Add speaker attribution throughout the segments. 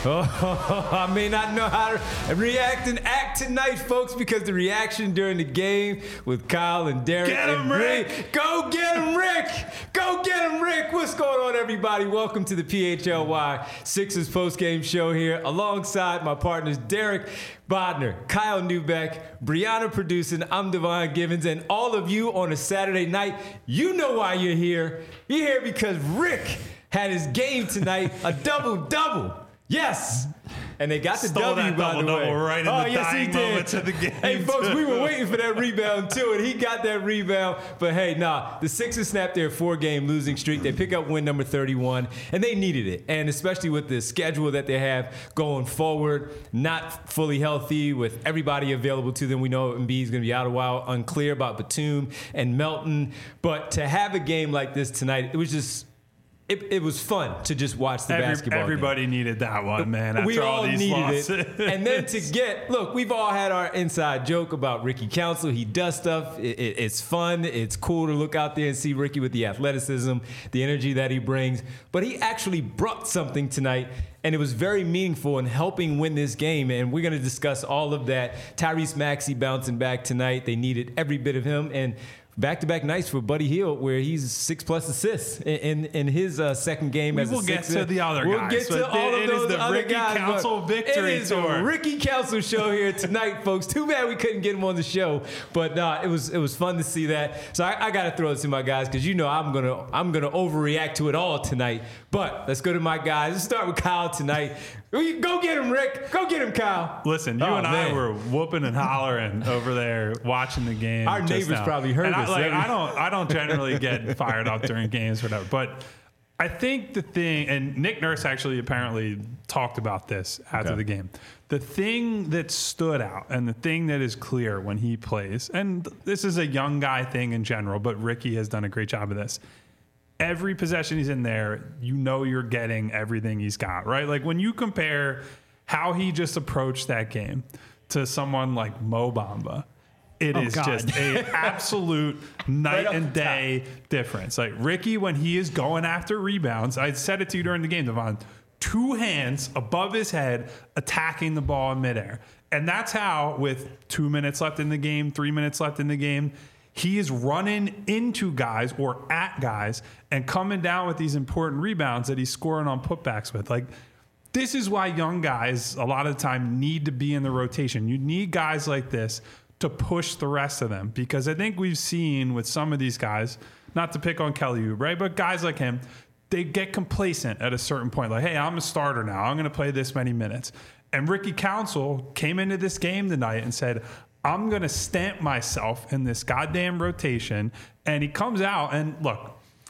Speaker 1: Oh, I may not know how to react and act tonight, folks, because the reaction during the game with Kyle and Derek.
Speaker 2: Get him, Rick!
Speaker 1: Go get him, Rick! Go get him, Rick! What's going on, everybody? Welcome to the PHLY Sixers postgame show here, alongside my partners Derek Bodner, Kyle Newbeck, Brianna producing, I'm Devon Givens, and all of you on a Saturday night. You know why you're here. You're here because Rick had his game tonight, a double-double. Yes! And they got the W, by the way.
Speaker 2: Double right in the dying moments of the game.
Speaker 1: Hey, folks, we were waiting for that rebound, too, and he got that rebound. But, hey, the Sixers snapped their four-game losing streak. They pick up win number 31, and they needed it. And especially with the schedule that they have going forward, not fully healthy, with everybody available to them. We know Embiid's going to be out a while, unclear about Batum and Melton. But to have a game like this tonight, it was just... It was fun to just watch the basketball.
Speaker 2: Everybody needed that one, man. After
Speaker 1: we all
Speaker 2: these
Speaker 1: needed
Speaker 2: losses.
Speaker 1: it. And then we've all had our inside joke about Ricky Council. He does stuff. It's fun. It's cool to look out there and see Ricky with the athleticism, the energy that he brings. But he actually brought something tonight, and it was very meaningful in helping win this game. And we're going to discuss all of that. Tyrese Maxey bouncing back tonight. They needed every bit of him. And back-to-back nights for Buddy Hield, where he's 6+ assists in his second game as a Sixer.
Speaker 2: We'll get to the other guys.
Speaker 1: We'll get to all of those other
Speaker 2: Ricky
Speaker 1: guys.
Speaker 2: Council victory
Speaker 1: It is
Speaker 2: tour.
Speaker 1: a Ricky Council show here tonight, folks. Too bad we couldn't get him on the show, but it was fun to see that. So I got to throw it to my guys because I'm gonna overreact to it all tonight. But let's go to my guys. Let's start with Kyle tonight. Go get him, Rick. Go get him, Kyle.
Speaker 2: Listen, you and I were whooping and hollering over there watching the game.
Speaker 1: Our neighbors probably heard us.
Speaker 2: I don't generally get fired up during games or whatever, but I think the thing, and Nick Nurse actually apparently talked about this after the game. The thing that stood out and the thing that is clear when he plays, and this is a young guy thing in general, but Ricky has done a great job of this. Every possession he's in there, you're getting everything he's got, right? Like when you compare how he just approached that game to someone like Mo Bamba, it is just an absolute night and day difference. Like Ricky, when he is going after rebounds, I said it to you during the game, Devon, 2 hands above his head attacking the ball in midair. And that's how, with 2 minutes left in the game, 3 minutes left in the game, he is running into guys or at guys and coming down with these important rebounds that he's scoring on putbacks with. Like, this is why young guys a lot of the time need to be in the rotation. You need guys like this to push the rest of them, because I think we've seen with some of these guys, not to pick on Kelly Oubre, right, but guys like him, they get complacent at a certain point. Like, hey, I'm a starter now. I'm going to play this many minutes. And Ricky Council came into this game tonight and said, I'm going to stamp myself in this goddamn rotation. And he comes out and look,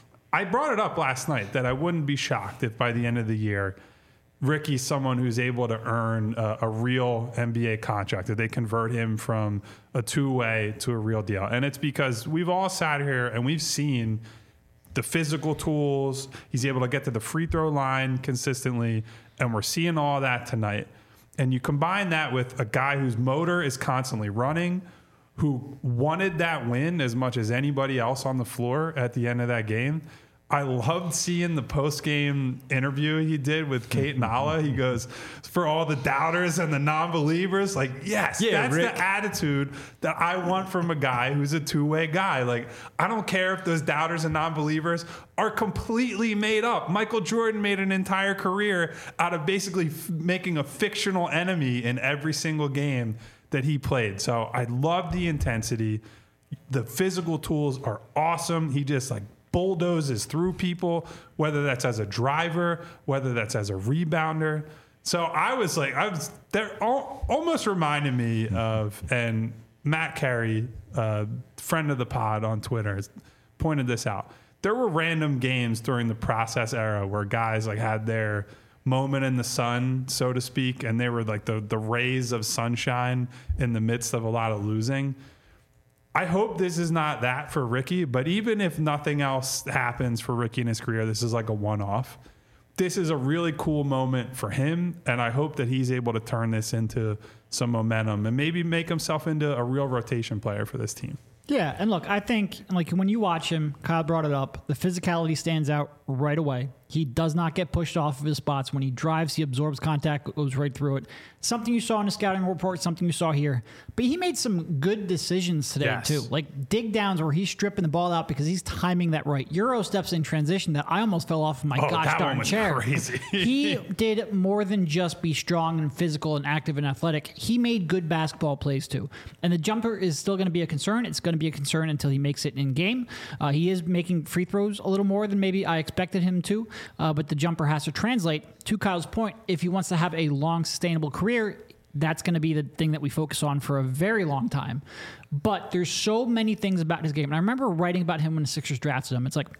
Speaker 2: I brought it up last night that I wouldn't be shocked if by the end of the year, Ricky's someone who's able to earn a real NBA contract, that they convert him from a two-way to a real deal. And it's because we've all sat here and we've seen the physical tools. He's able to get to the free throw line consistently. And we're seeing all that tonight. And you combine that with a guy whose motor is constantly running, who wanted that win as much as anybody else on the floor at the end of that game. I loved seeing the post-game interview he did with Kate Nala. He goes, for all the doubters and the non-believers, like, yes, that's Rick. The attitude that I want from a guy who's a two-way guy. Like, I don't care if those doubters and non-believers are completely made up. Michael Jordan made an entire career out of basically making a fictional enemy in every single game that he played. So I love the intensity. The physical tools are awesome. He just, like, bulldozes through people, whether that's as a driver, whether that's as a rebounder. So they're almost reminding me of, and Matt Carey, friend of the pod on Twitter, has pointed this out. There were random games during the process era where guys like had their moment in the sun, so to speak, and they were like the rays of sunshine in the midst of a lot of losing. I hope this is not that for Ricky, but even if nothing else happens for Ricky in his career, this is like a one-off. This is a really cool moment for him, and I hope that he's able to turn this into some momentum and maybe make himself into a real rotation player for this team.
Speaker 3: Yeah, and look, I think like when you watch him, Kyle brought it up, the physicality stands out right away. He does not get pushed off of his spots. When he drives, he absorbs contact, goes right through it. Something you saw in the scouting report, something you saw here. But he made some good decisions today, too. Like dig downs where he's stripping the ball out because he's timing that right. Euro steps in transition that I almost fell off of my gosh darn chair.
Speaker 2: Crazy.
Speaker 3: He did more than just be strong and physical and active and athletic. He made good basketball plays, too. And the jumper is still going to be a concern. It's going to be a concern until he makes it in game. He is making free throws a little more than maybe I expected him to, but the jumper has to translate. To Kyle's point, if he wants to have a long, sustainable career, that's going to be the thing that we focus on for a very long time. But there's so many things about his game. And I remember writing about him when the Sixers drafted him. It's like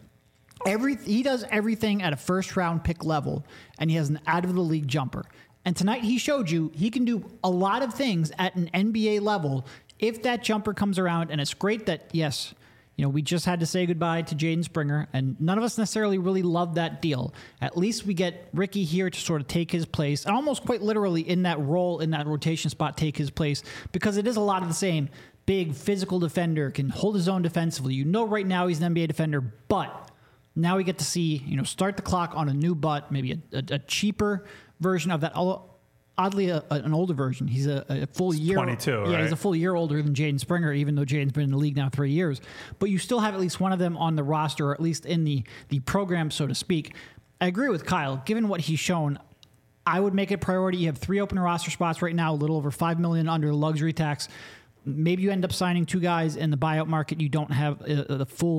Speaker 3: he does everything at a first-round pick level, and he has an out-of-the-league jumper. And tonight he showed you he can do a lot of things at an NBA level if that jumper comes around. And it's great that, yes, we just had to say goodbye to Jaden Springer, and none of us necessarily really loved that deal. At least we get Ricky here to sort of take his place, and almost quite literally in that role, in that rotation spot, take his place, because it is a lot of the same. Big physical defender, can hold his own defensively. Right now he's an NBA defender, but now we get to see, start the clock on a new butt, maybe a cheaper version of that. Oddly, an older version. He's a full year.
Speaker 2: 22,
Speaker 3: yeah,
Speaker 2: right?
Speaker 3: He's a full year older than Jaden Springer, even though Jaden's been in the league now 3 years. But you still have at least one of them on the roster, or at least in the program, so to speak. I agree with Kyle. Given what he's shown, I would make it a priority. You have 3 open roster spots right now, a little over $5 million under the luxury tax. Maybe you end up signing 2 guys in the buyout market. You don't have the full,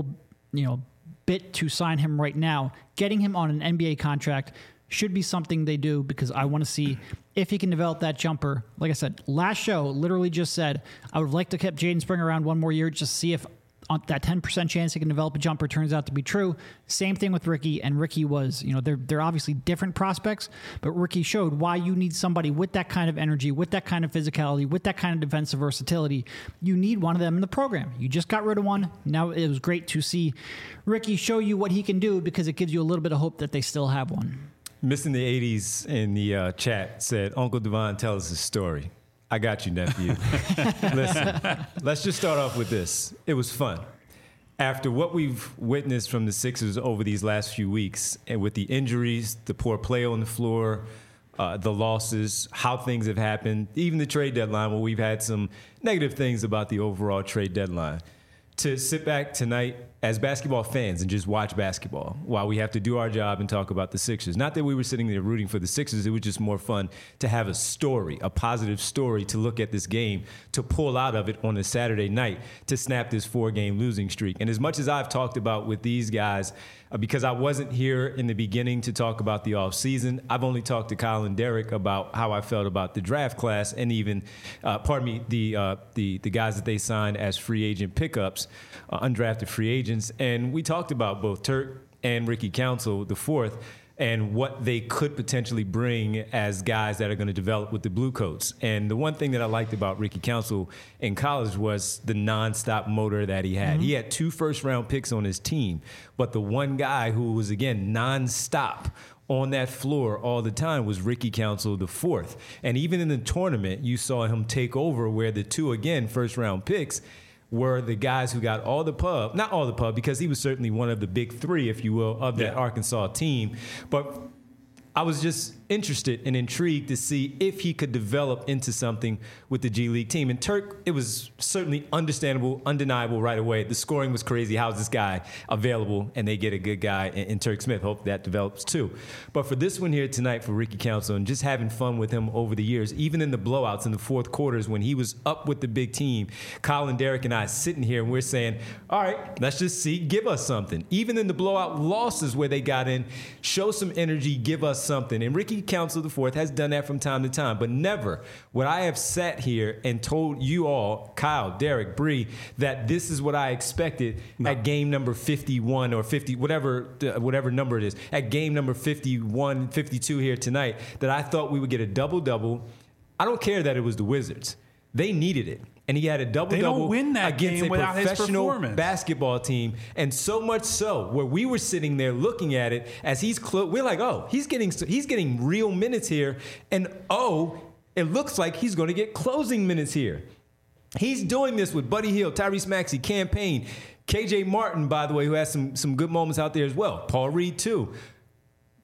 Speaker 3: bit to sign him right now. Getting him on an NBA contract should be something they do, because I want to see if he can develop that jumper. Like I said, last show literally just said I would have liked to keep Jaden Springer around one more year, just see if on that 10% chance he can develop a jumper turns out to be true. Same thing with Ricky, and Ricky was, they're obviously different prospects, but Ricky showed why you need somebody with that kind of energy, with that kind of physicality, with that kind of defensive versatility. You need one of them in the program. You just got rid of one. Now it was great to see Ricky show you what he can do, because it gives you a little bit of hope that they still have one.
Speaker 1: Missing the 80s in the chat said, Uncle Devon, tell us a story. I got you, nephew. Listen, let's just start off with this. It was fun. After what we've witnessed from the Sixers over these last few weeks, and with the injuries, the poor play on the floor, the losses, how things have happened, even the trade deadline, where we've had some negative things about the overall trade deadline, to sit back tonight as basketball fans and just watch basketball while we have to do our job and talk about the Sixers. Not that we were sitting there rooting for the Sixers. It was just more fun to have a story, a positive story to look at this game, to pull out of it on a Saturday night, to snap this 4-game losing streak. And as much as I've talked about with these guys, because I wasn't here in the beginning to talk about the offseason, I've only talked to Kyle and Derek about how I felt about the draft class, and even, the guys that they signed as free agent pickups, undrafted free agents. And we talked about both Turk and Ricky Council, the fourth, and what they could potentially bring as guys that are going to develop with the Bluecoats. And the one thing that I liked about Ricky Council in college was the nonstop motor that he had. Mm-hmm. He had 2 first-round picks on his team, but the one guy who was, again, nonstop on that floor all the time was Ricky Council, the fourth. And even in the tournament, you saw him take over, where the 2, again, first-round picks were the guys who got all the pub, not all the pub, because he was certainly one of the big 3, if you will, of that Arkansas team. But I was just interested and intrigued to see if he could develop into something with the G League team. And Turk, it was certainly understandable, undeniable right away. The scoring was crazy. How's this guy available? And they get a good guy in Turk Smith. Hope that develops too. But for this one here tonight for Ricky Council, and just having fun with him over the years, even in the blowouts in the fourth quarters when he was up with the big team, Kyle and Derek and I sitting here and we're saying, all right, let's just see, give us something. Even in the blowout losses where they got in, show some energy, give us something. And Ricky Council IV has done that from time to time, but never would I have sat here and told you all, Kyle, Derek, Bree, that this is what I expected at game number 51 or 50, whatever number it is, at game number 51, 52 here tonight, that I thought we would get a double-double. I don't care that it was the Wizards. They needed it. And he had a double-double against a professional basketball team. And so much so, where we were sitting there looking at it as we're like, oh, he's getting real minutes here. And oh, it looks like he's going to get closing minutes here. He's doing this with Buddy Hield, Tyrese Maxey, Cam Payne, KJ Martin, by the way, who has some good moments out there as well. Paul Reed, too.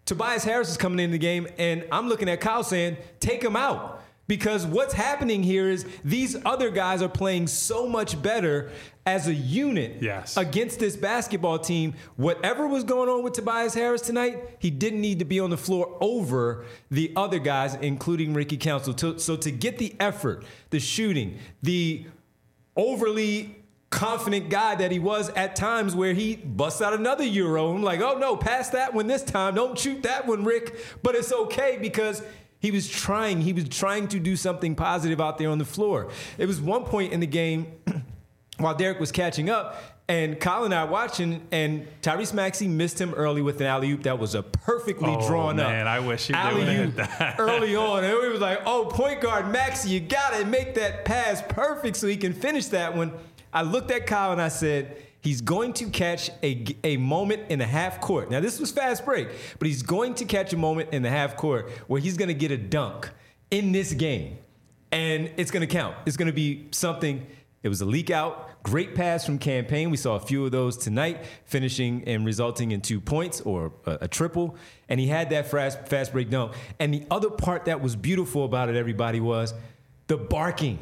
Speaker 1: Tobias Harris is coming into the game, and I'm looking at Kyle saying, take him out. Because what's happening here is these other guys are playing so much better as a unit against this basketball team. Whatever was going on with Tobias Harris tonight, he didn't need to be on the floor over the other guys, including Ricky Council. So to get the effort, the shooting, the overly confident guy that he was at times where he busts out another Euro. I'm like, oh no, pass that one this time. Don't shoot that one, Rick. But it's okay because he was trying to do something positive out there on the floor. It was one point in the game while Derek was catching up, and Kyle and I watching, and Tyrese Maxey missed him early with an alley-oop that was a perfectly drawn up.
Speaker 2: Man, I wish he would have that
Speaker 1: early on. And we was like, oh, point guard Maxey, you got to make that pass perfect so he can finish that one. I looked at Kyle and I said, he's going to catch a moment in the half court. Now, this was fast break, but he's going to catch a moment in the half court where he's going to get a dunk in this game. And it's going to count. It's going to be something. It was a leak out. Great pass from Campaign. We saw a few of those tonight, finishing and resulting in 2 points or a triple. And he had that fast break dunk. And the other part that was beautiful about it, everybody, was the barking.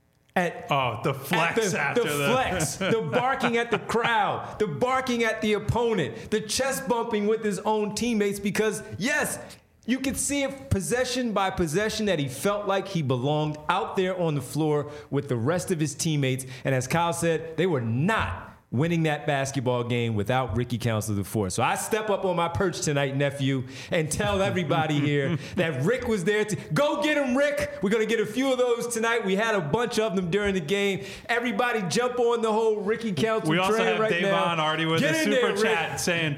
Speaker 2: The flex
Speaker 1: the barking at the crowd, the barking at the opponent, the chest bumping with his own teammates because, yes, you could see it possession by possession that he felt like he belonged out there on the floor with the rest of his teammates. And as Kyle said, they were not winning that basketball game without Ricky Council IV. So I step up on my perch tonight, nephew, and tell everybody here that Rick was there to go get him, Rick. We're going to get a few of those tonight. We had a bunch of them during the game. Everybody jump on the whole Ricky Council train right now.
Speaker 2: We also have Davon already with a super chat saying,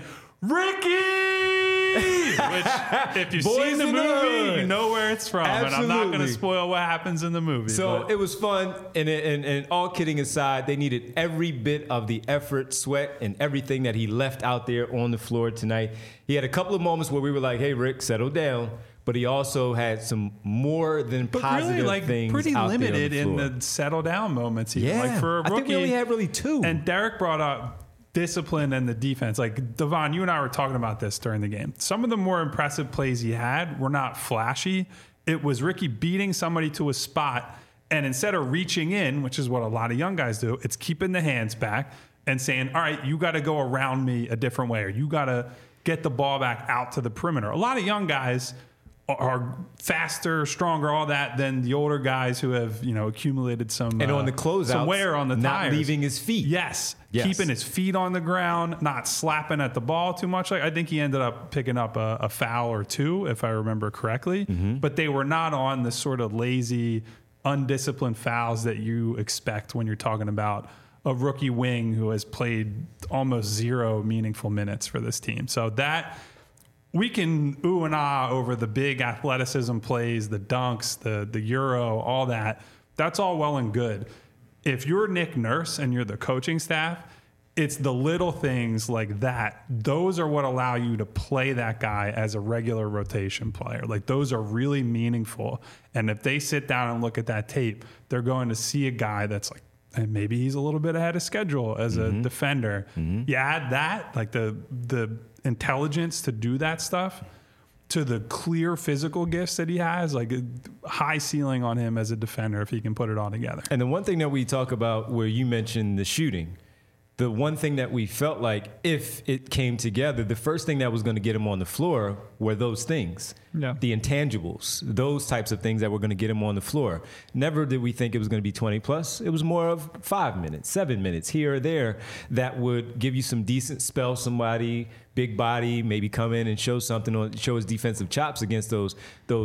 Speaker 2: Ricky! Which, if you've seen the movie, you know where it's from. Absolutely. And I'm not going to spoil what happens in the movie.
Speaker 1: So it was fun. And all kidding aside, they needed every bit of the effort, sweat, and everything that he left out there on the floor tonight. He had a couple of moments where we were like, hey, Rick, settle down. But he also had some more than positive things
Speaker 2: pretty
Speaker 1: out
Speaker 2: limited
Speaker 1: there on the
Speaker 2: in the settle down moments. Even.
Speaker 1: Yeah,
Speaker 2: like for a rookie,
Speaker 1: I think we only had really 2.
Speaker 2: And Derek brought up discipline and the defense. Like, Devon, you and I were talking about this during the game. Some of the more impressive plays he had were not flashy. It was Ricky beating somebody to a spot, and instead of reaching in, which is what a lot of young guys do, it's keeping the hands back and saying, all right, you got to go around me a different way, or you got to get the ball back out to the perimeter. A lot of young guys are faster, stronger, all that than the older guys who have, accumulated some
Speaker 1: and on the closeouts,
Speaker 2: some wear on the
Speaker 1: not
Speaker 2: tires.
Speaker 1: Leaving his feet.
Speaker 2: Yes, keeping his feet on the ground, not slapping at the ball too much. Like, I think he ended up picking up a foul or 2, if I remember correctly. Mm-hmm. But they were not on the sort of lazy, undisciplined fouls that you expect when you're talking about a rookie wing who has played almost 0 meaningful minutes for this team. So that. We can ooh and ah over the big athleticism plays, the dunks, the Euro, all that. That's all well and good. If you're Nick Nurse and you're the coaching staff, it's the little things like that. Those are what allow you to play that guy as a regular rotation player. Like, those are really meaningful. And if they sit down and look at that tape, they're going to see a guy that's like, and maybe he's a little bit ahead of schedule as a defender. Mm-hmm. You add that, like the intelligence to do that stuff, to the clear physical gifts that he has, like a high ceiling on him as a defender if he can put it all together.
Speaker 1: And the one thing that we talk about where you mentioned the shooting, the one thing that we felt like if it came together, the first thing that was going to get him on the floor were those things. Yeah. The intangibles, those types of things that were going to get him on the floor. Never did we think it was going to be 20 plus. It was more of 5 minutes, 7 minutes here or there that would give you some decent spell, somebody, big body, maybe come in and show something or show his defensive chops against those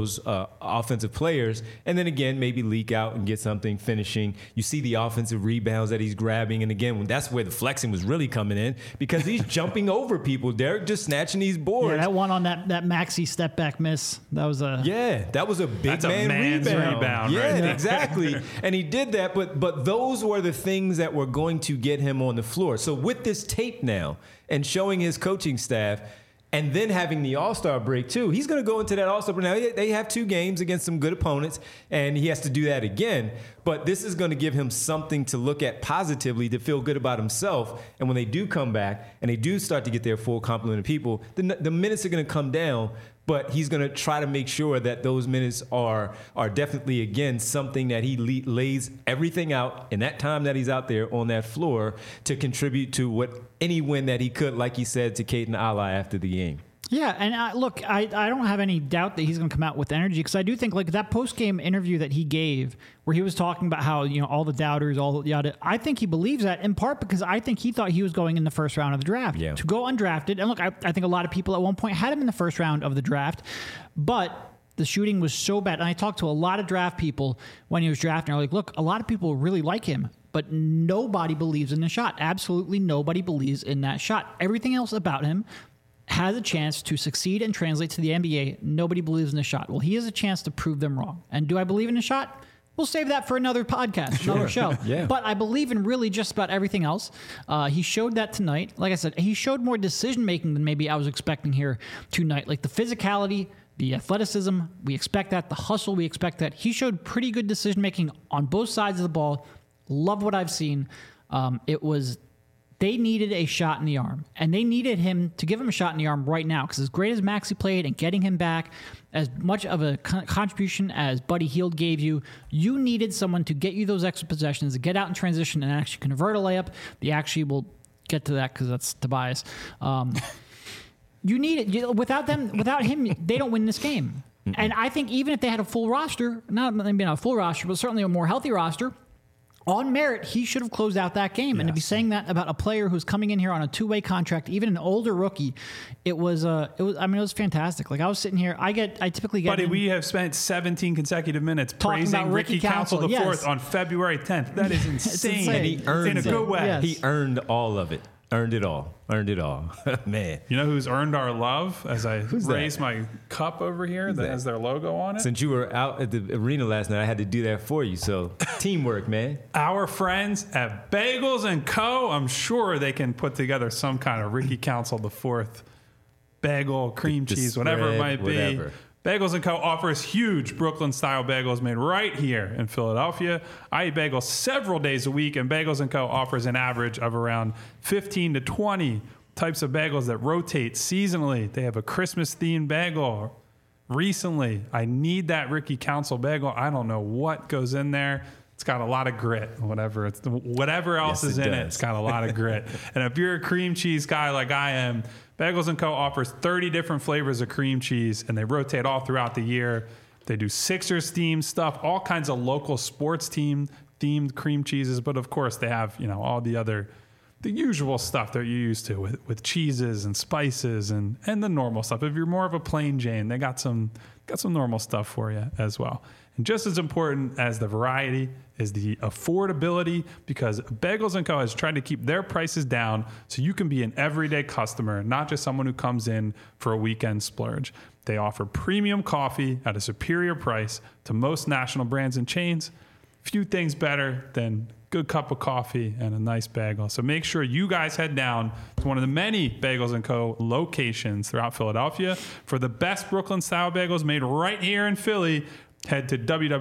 Speaker 1: offensive players. And then again, maybe leak out and get something finishing. You see the offensive rebounds that he's grabbing. And again, that's where the flexing was really coming in because he's jumping over people. Derek just snatching these boards.
Speaker 3: Yeah, that one on that Maxey step back miss. That was a
Speaker 1: big man's rebound. Yeah, right? Exactly. And he did that, but those were the things that were going to get him on the floor. So with this tape now and showing his coaching staff, and then having the All-Star break too. He's going to go into that All-Star break. Now, they have 2 games against some good opponents, and he has to do that again. But this is going to give him something to look at positively, to feel good about himself. And when they do come back and they do start to get their full complement of people, the minutes are going to come down. But he's going to try to make sure that those minutes are definitely, again, something that he lays everything out in that time that he's out there on that floor to contribute to any win that he could, like he said to Caden Ala after the game.
Speaker 3: Yeah, and look, I don't have any doubt that he's going to come out with energy, because I do think like that post-game interview that he gave where he was talking about how, all the doubters, all the yada, I think he believes that in part because I think he thought he was going in the first round of the draft to go undrafted. And look, I think a lot of people at one point had him in the first round of the draft, but the shooting was so bad. And I talked to a lot of draft people when he was drafting. They're like, look, a lot of people really like him, but nobody believes in the shot. Absolutely nobody believes in that shot. Everything else about him has a chance to succeed and translate to the NBA. Nobody believes in the shot. Well, he has a chance to prove them wrong. And do I believe in the shot? We'll save that for another podcast, another show.
Speaker 1: Yeah.
Speaker 3: But I believe in really just about everything else. He showed that tonight. Like I said, he showed more decision-making than maybe I was expecting here tonight. Like the physicality, the athleticism, we expect that. The hustle, we expect that. He showed pretty good decision-making on both sides of the ball. Love what I've seen. They needed a shot in the arm, and they needed him to give him a shot in the arm right now, because as great as Maxey played and getting him back, as much of a contribution as Buddy Hield gave you, you needed someone to get you those extra possessions, to get out in transition and actually convert a layup. They actually will get to that because that's Tobias. You need it. Without him, they don't win this game. Mm-mm. And I think even if they had a full roster, not maybe not a full roster, but certainly a more healthy roster, on merit, he should have closed out that game. Yes. And to be saying that about a player who's coming in here on a 2-way contract, even an older rookie, it was fantastic. Like I was sitting here, I typically get.
Speaker 2: Buddy, we have spent 17 consecutive minutes praising Ricky Council IV on February 10th. That is insane.
Speaker 1: And he earned
Speaker 2: in a good way.
Speaker 1: Yes. He earned all of it. Earned it all. Man.
Speaker 2: You know who's earned our love? As I raise my cup over here that has their logo on it.
Speaker 1: Since you were out at the arena last night, I had to do that for you. So teamwork, man.
Speaker 2: Our friends at Bagels & Co. I'm sure they can put together some kind of Ricky Council IV bagel, cream cheese, whatever it might be. Bagels & Co. offers huge Brooklyn-style bagels made right here in Philadelphia. I eat bagels several days a week, and Bagels & Co. offers an average of around 15 to 20 types of bagels that rotate seasonally. They have a Christmas-themed bagel. Recently, I need that Ricky Council bagel. I don't know what goes in there. It's got a lot of grit, whatever else is in it. It's got a lot of grit. And if you're a cream cheese guy like I am, Bagels & Co. offers 30 different flavors of cream cheese, and they rotate all throughout the year. They do Sixers-themed stuff, all kinds of local sports team-themed cream cheeses, but of course they have, all the usual stuff that you're used to with cheeses and spices and the normal stuff. If you're more of a plain Jane, they got some normal stuff for you as well. And just as important as the variety is the affordability, because Bagels & Co. has tried to keep their prices down so you can be an everyday customer, not just someone who comes in for a weekend splurge. They offer premium coffee at a superior price to most national brands and chains. Few things better than good cup of coffee and a nice bagel. So make sure you guys head down to one of the many Bagels & Co. locations throughout Philadelphia for the best Brooklyn-style bagels made right here in Philly. Head to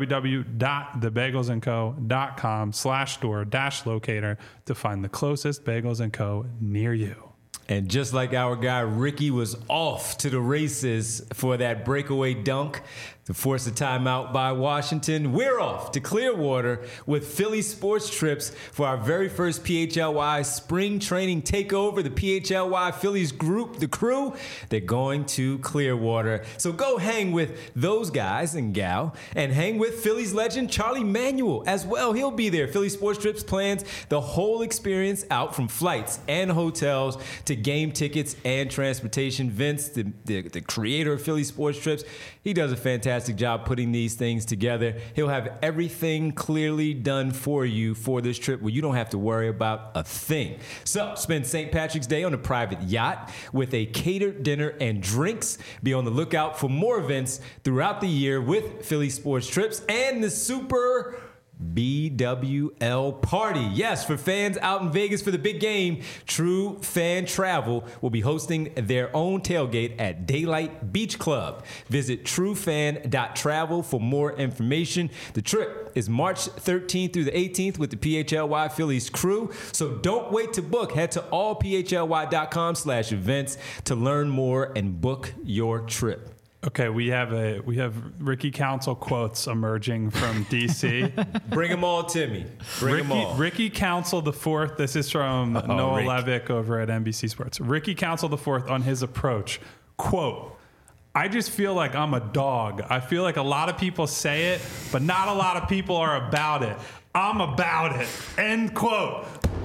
Speaker 2: www.thebagelsandco.com/store-locator to find the closest Bagels & Co. near you.
Speaker 1: And just like our guy Ricky was off to the races for that breakaway dunk to force a timeout by Washington, we're off to Clearwater with Philly Sports Trips for our very first PHLY spring training takeover. The PHLY Phillies group, the crew, they're going to Clearwater. So go hang with those guys and gal and hang with Phillies legend Charlie Manuel as well. He'll be there. Philly Sports Trips plans the whole experience out, from flights and hotels to game tickets and transportation. Vince, the creator of Philly Sports Trips, he does a fantastic job putting these things together. He'll have everything clearly done for you for this trip where you don't have to worry about a thing. So spend St. Patrick's Day on a private yacht with a catered dinner and drinks. Be on the lookout for more events throughout the year with Philly Sports Trips and the super BWL Party. Yes, for fans out in Vegas for the big game, True Fan Travel will be hosting their own tailgate at Daylight Beach Club. Visit truefan.travel for more information. The trip is March 13th through the 18th with the PHLY Phillies crew, so don't wait to book. Head to allphly.com/events to learn more and book your trip.
Speaker 2: Okay, we have Ricky Council quotes emerging from DC.
Speaker 1: Bring them all to me. Bring them all.
Speaker 2: Ricky Council the Fourth. This is from Noah
Speaker 1: Rick.
Speaker 2: Levick over at NBC Sports. Ricky Council the Fourth on his approach. Quote, I just feel like I'm a dog. I feel like a lot of people say it, but not a lot of people are about it. I'm about it. End quote.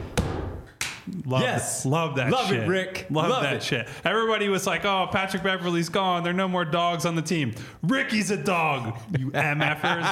Speaker 2: Love
Speaker 1: Yes.
Speaker 2: it. Love that
Speaker 1: Love
Speaker 2: shit.
Speaker 1: it, Rick.
Speaker 2: Love that
Speaker 1: it.
Speaker 2: shit. Everybody was like, oh, Patrick Beverley's gone. There are no more dogs on the team. Ricky's a dog, you MFers.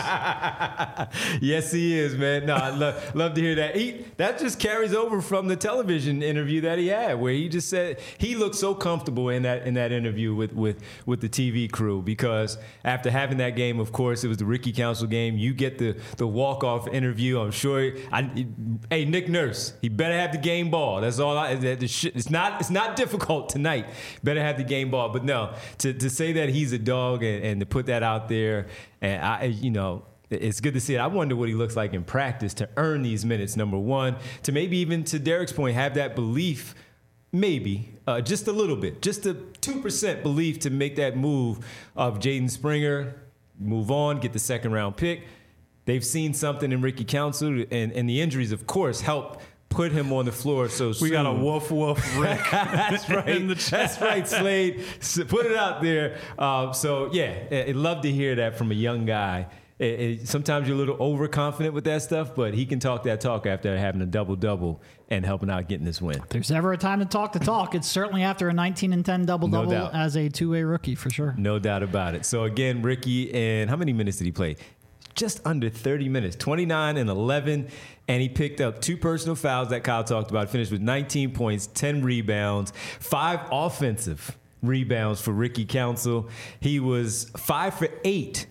Speaker 1: Yes, he is, man. No, I love to hear that. That just carries over from the television interview that he had, where he just said he looked so comfortable in that interview with the TV crew, because after having that game, of course, it was the Ricky Council game. You get the walk-off interview. I'm sure. Hey, Nick Nurse, he better have the game ball. That's all. It's not difficult tonight. Better have the game ball. But no, to say that he's a dog and to put that out there, and it's good to see it. I wonder what he looks like in practice to earn these minutes, number one. To maybe even, to Derek's point, have that belief, maybe, just a little bit, just a 2% belief to make that move of Jaden Springer, move on, get the second-round pick. They've seen something in Ricky Council, and the injuries, of course, help put him on the floor so soon.
Speaker 2: We got a woof Rick.
Speaker 1: That's right.
Speaker 2: In the chat.
Speaker 1: That's right, Slade. Put it out there. I'd love to hear that from a young guy. Sometimes you're a little overconfident with that stuff, but he can talk that talk after having a double-double and helping out getting this win.
Speaker 3: If there's ever a time to talk the talk, it's certainly after a 19-10 double-double as a two-way rookie, for sure.
Speaker 1: No doubt about it. So, again, Ricky, and how many minutes did he play? Just under 30 minutes, 29 and 11, and he picked up 2 personal fouls that Kyle talked about, finished with 19 points, 10 rebounds, 5 offensive rebounds for Ricky Council. He was 5 for 8,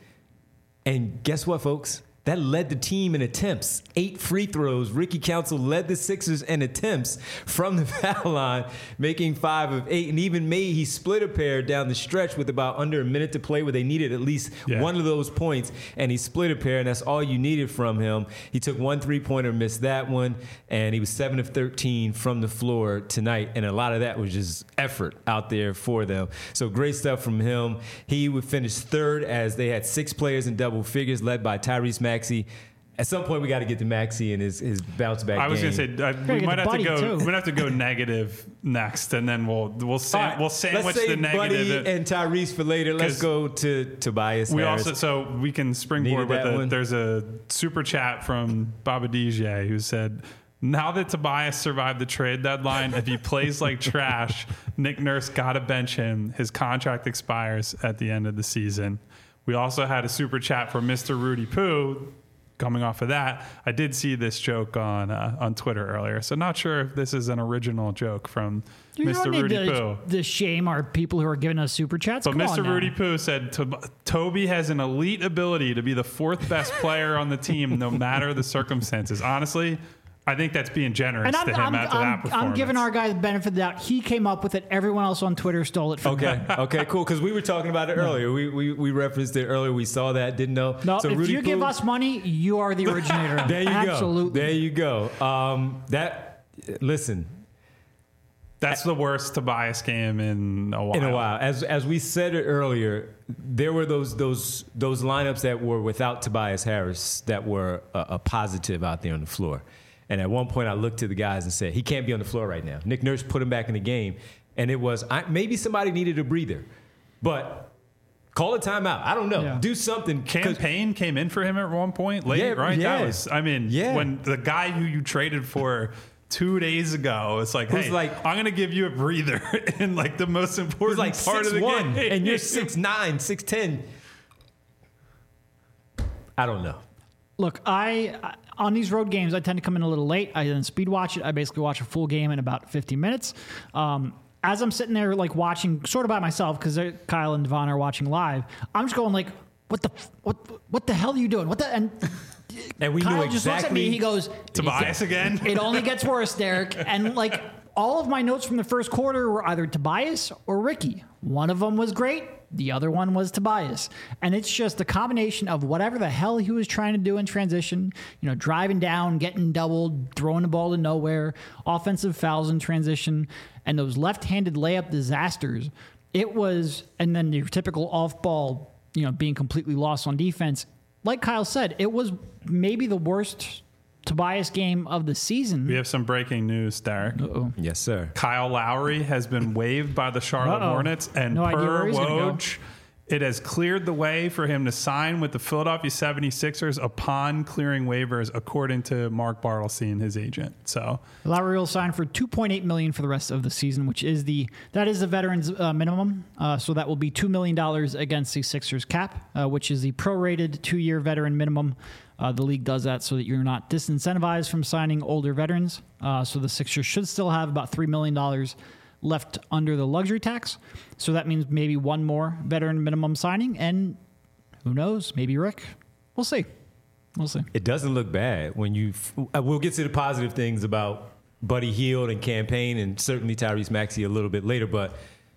Speaker 1: and guess what, folks? That led the team in attempts. 8 free throws. Ricky Council led the Sixers in attempts from the foul line, making 5 of 8. And even he split a pair down the stretch with about under a minute to play, where they needed at least one of those points. And he split a pair, and that's all you needed from him. He took 1 3-pointer, missed that one, and he was 7 of 13 from the floor tonight. And a lot of that was just effort out there for them. So great stuff from him. He would finish third, as they had 6 players in double figures, led by Tyrese Maxey. At some point, we got to get to Maxey and his bounce back.
Speaker 2: I was going to say we might have to go. We're gonna have to go negative next, and then we'll sandwich the negative.
Speaker 1: Buddy and Tyrese for later. Let's go to Tobias Harris.
Speaker 2: So we can springboard with it. There's a super chat from Baba DJ who said, now that Tobias survived the trade deadline, if he plays like trash, Nick Nurse got to bench him. His contract expires at the end of the season. We also had a super chat from Mr. Rudy Poo. Coming off of that, I did see this joke on Twitter earlier, so not sure if this is an original joke from Mr. Rudy Poo.
Speaker 3: The shame are people who are giving us super chats.
Speaker 2: But Mr. Rudy Poo said, Toby has an elite ability to be the 4th best player on the team, no matter the circumstances. Honestly, I think that's being generous to him after that performance.
Speaker 3: I'm giving our guy the benefit of the doubt. He came up with it. Everyone else on Twitter stole it from him.
Speaker 1: Okay, cool. Because we were talking about it earlier. We referenced it earlier. We saw that. Didn't know.
Speaker 3: No, so if Rudy you give us money, you are the originator.
Speaker 1: There you go.
Speaker 3: Absolutely.
Speaker 1: There you go. Listen.
Speaker 2: That's the worst Tobias game in a while.
Speaker 1: As we said it earlier, there were those lineups that were without Tobias Harris that were a positive out there on the floor. And at one point, I looked to the guys and said, he can't be on the floor right now. Nick Nurse put him back in the game. And it was, maybe somebody needed a breather. But call a timeout. I don't know. Yeah. Do something.
Speaker 2: Campaign came in for him at one point late, right? Yeah. That was, when the guy who you traded for 2 days ago, it's like, hey, I'm going to give you a breather in the most important part of the game.
Speaker 1: And you're 6'9", 6'10". I don't know.
Speaker 3: Look, on these road games, I tend to come in a little late. I then speed watch it. I basically watch a full game in about 50 minutes. As I'm sitting there watching sort of by myself, because Kyle and Devon are watching live, I'm just going what the hell are you doing? And
Speaker 1: And we
Speaker 3: Kyle
Speaker 1: knew
Speaker 3: just looks at me.
Speaker 1: exactly.
Speaker 3: He goes,
Speaker 2: Tobias again?
Speaker 3: It only gets worse, Derek. And like all of my notes from the first quarter were either Tobias or Ricky. One of them was great. The other one was Tobias. And it's just a combination of whatever the hell he was trying to do in transition, driving down, getting doubled, throwing the ball to nowhere, offensive fouls in transition, and those left-handed layup disasters. It was, and then your typical off-ball, being completely lost on defense. Like Kyle said, it was maybe the worst Tobias game of the season.
Speaker 2: We have some breaking news, Derek.
Speaker 3: Uh-oh.
Speaker 1: Yes, sir.
Speaker 2: Kyle Lowry has been waived by the Charlotte Hornets, and
Speaker 3: No idea
Speaker 2: per
Speaker 3: where he's gonna go.
Speaker 2: Woj, it has cleared the way for him to sign with the Philadelphia 76ers upon clearing waivers, according to Mark Bartelstein, his agent. So
Speaker 3: Lowry will sign for $2.8 million for the rest of the season, which is the veterans minimum. So that will be $2 million against the Sixers cap, which is the prorated 2-year veteran minimum. The league does that so that you're not disincentivized from signing older veterans. So the Sixers should still have about $3 million left under the luxury tax. So that means maybe one more veteran minimum signing. And who knows? Maybe Rick. We'll see. We'll see.
Speaker 1: It doesn't look bad when you. We'll get to the positive things about Buddy Hield and campaign, and certainly Tyrese Maxey a little bit later. But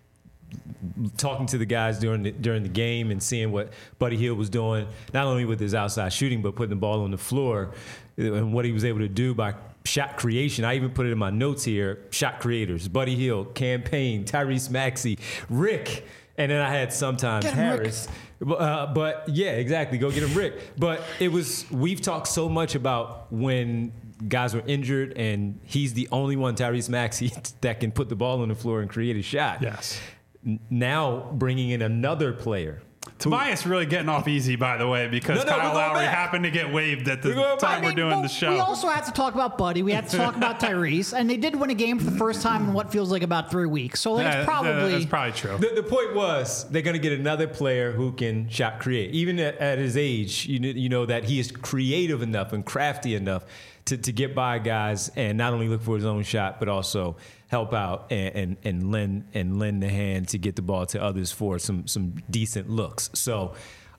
Speaker 1: talking to the guys during the game and seeing what Buddy Hield was doing, not only with his outside shooting, but putting the ball on the floor, and what he was able to do by shot creation. I even put it in my notes here. Shot creators: Buddy Hield, campaign, Tyrese Maxey, Rick, and then I had sometimes
Speaker 3: Get him,
Speaker 1: Harris. But yeah, exactly. Go get him, Rick. But we've talked so much about when guys were injured, and he's the only one, Tyrese Maxey, that can put the ball on the floor and create a shot.
Speaker 2: yes.
Speaker 1: Now bringing in another player.
Speaker 2: Tobias really getting off easy, by the way, because
Speaker 1: No, we're
Speaker 2: Kyle
Speaker 1: going
Speaker 2: Lowry
Speaker 1: back.
Speaker 2: happened to get waived at the
Speaker 1: We're going
Speaker 2: time
Speaker 1: back.
Speaker 2: we're doing the show.
Speaker 3: We also have to talk about Buddy. We have to talk about Tyrese. And they did win a game for the first time in what feels like about 3 weeks. So
Speaker 2: Yeah,
Speaker 3: it's probably...
Speaker 2: that's probably true.
Speaker 1: The point was they're going to get another player who can shot create. Even at his age, you know that he is creative enough and crafty enough to get by guys and not only look for his own shot, but also help out and lend the hand to get the ball to others for some decent looks. So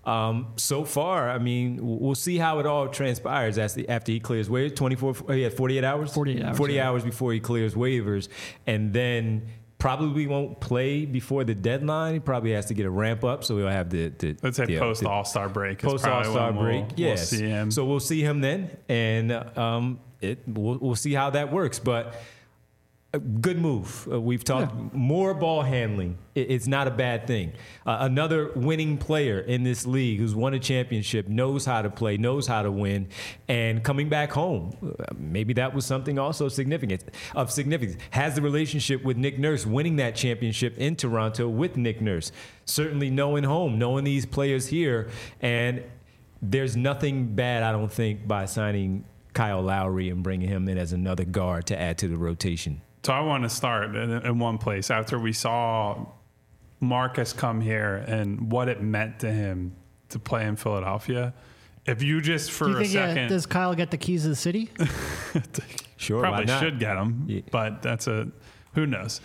Speaker 1: far, I mean, we'll see how it all transpires after he clears waivers. He had 48 hours?
Speaker 3: 48 hours.
Speaker 1: 40 hours before he clears waivers. And then probably won't play before the deadline. He probably has to get a ramp up, so he'll have the
Speaker 2: Let's say post All-Star break. is
Speaker 1: post
Speaker 2: probably
Speaker 1: All-Star
Speaker 2: when
Speaker 1: break.
Speaker 2: We'll
Speaker 1: Yes.
Speaker 2: see him.
Speaker 1: So we'll see him then, and we'll see how that works. But a good move. We've talked more ball handling. It's not a bad thing. Another winning player in this league who's won a championship, knows how to play, knows how to win, and coming back home. Maybe that was something also significant. Has the relationship with Nick Nurse, winning that championship in Toronto with Nick Nurse. Certainly knowing home, knowing these players here, and there's nothing bad, I don't think, by signing Kyle Lowry and bringing him in as another guard to add to the rotation.
Speaker 2: So I want to start in one place after we saw Marcus come here and what it meant to him to play in Philadelphia. If you just for
Speaker 3: Do you
Speaker 2: a
Speaker 3: think
Speaker 2: second,
Speaker 3: does Kyle get the keys to the city?
Speaker 1: Sure,
Speaker 2: probably
Speaker 1: why not?
Speaker 2: should get them,
Speaker 1: Yeah.
Speaker 2: but who knows.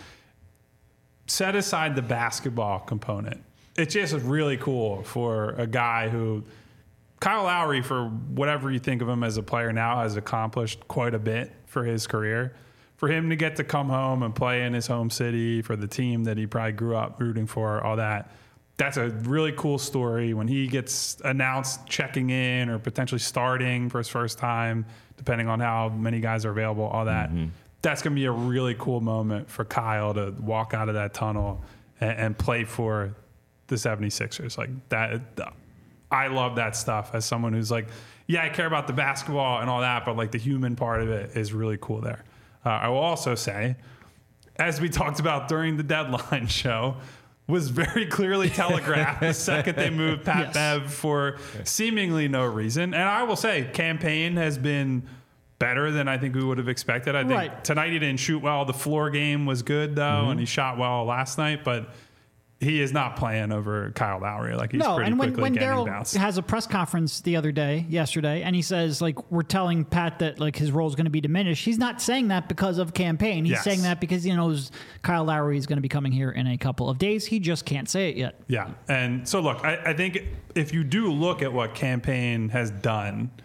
Speaker 2: Set aside the basketball component. It's just really cool for a guy who, Kyle Lowry, for whatever you think of him as a player now, has accomplished quite a bit for his career. For him to get to come home and play in his home city for the team that he probably grew up rooting for, all that, that's a really cool story. When he gets announced checking in or potentially starting for his first time, depending on how many guys are available, all that, that's going to be a really cool moment for Kyle to walk out of that tunnel and play for the 76ers. Like that, I love that stuff as someone who's like, yeah, I care about the basketball and all that, but like the human part of it is really cool there. I will also say, as we talked about during the deadline show, was very clearly telegraphed the second they moved Pat Bev for seemingly no reason. And I will say, campaign has been better than I think we would have expected. I think tonight he didn't shoot well. The floor game was good, though, and he shot well last night, but he is not playing over Kyle Lowry. Like he's pretty
Speaker 3: and
Speaker 2: quickly
Speaker 3: when
Speaker 2: getting
Speaker 3: Daryl
Speaker 2: bounced.
Speaker 3: has a press conference yesterday, and he says, like, we're telling Pat that, like, his role is going to be diminished, he's not saying that because of campaign. He's saying that because he knows Kyle Lowry is going to be coming here in a couple of days. He just can't say it yet.
Speaker 2: Yeah. And so, look, I think if you do look at what campaign has done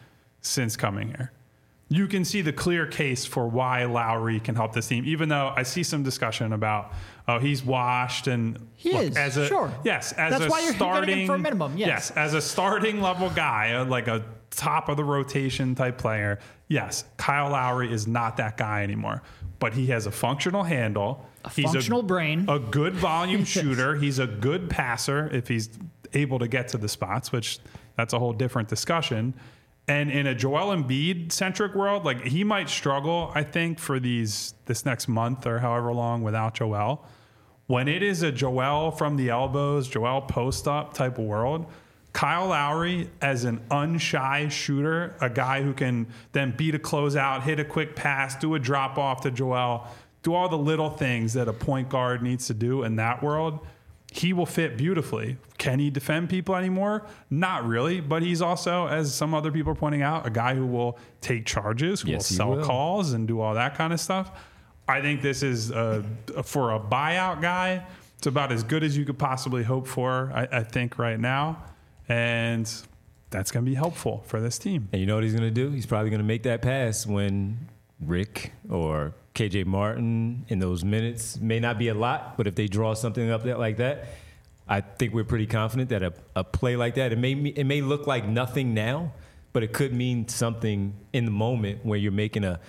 Speaker 2: since coming here. You can see the clear case for why Lowry can help this team, even though I see some discussion about, oh, he's washed and
Speaker 3: he is. Sure.
Speaker 2: Yes, as
Speaker 3: that's
Speaker 2: a
Speaker 3: why you're
Speaker 2: starting
Speaker 3: getting him for a minimum.
Speaker 2: Yes, as a starting level guy, like a top of the rotation type player. Yes, Kyle Lowry is not that guy anymore, but he has a functional handle.
Speaker 3: He's functional brain.
Speaker 2: A good volume shooter. He's a good passer if he's able to get to the spots, which that's a whole different discussion. And in a Joel Embiid-centric world, like he might struggle, I think, for this next month or however long without Joel. When it is a Joel from the elbows, Joel post-up type of world, Kyle Lowry as an unshy shooter, a guy who can then beat a closeout, hit a quick pass, do a drop-off to Joel, do all the little things that a point guard needs to do in that world, he will fit beautifully. Can he defend people anymore? Not really, but he's also, as some other people are pointing out, a guy who will take charges, who will sell calls and do all that kind of stuff. I think this is, for a buyout guy, it's about as good as you could possibly hope for, I think, right now. And that's going to be helpful for this team.
Speaker 1: And you know what he's going to do? He's probably going to make that pass when Rick or KJ Martin in those minutes may not be a lot, but if they draw something up there like that, I think we're pretty confident that a play like that, it may look like nothing now, but it could mean something in the moment where you're making a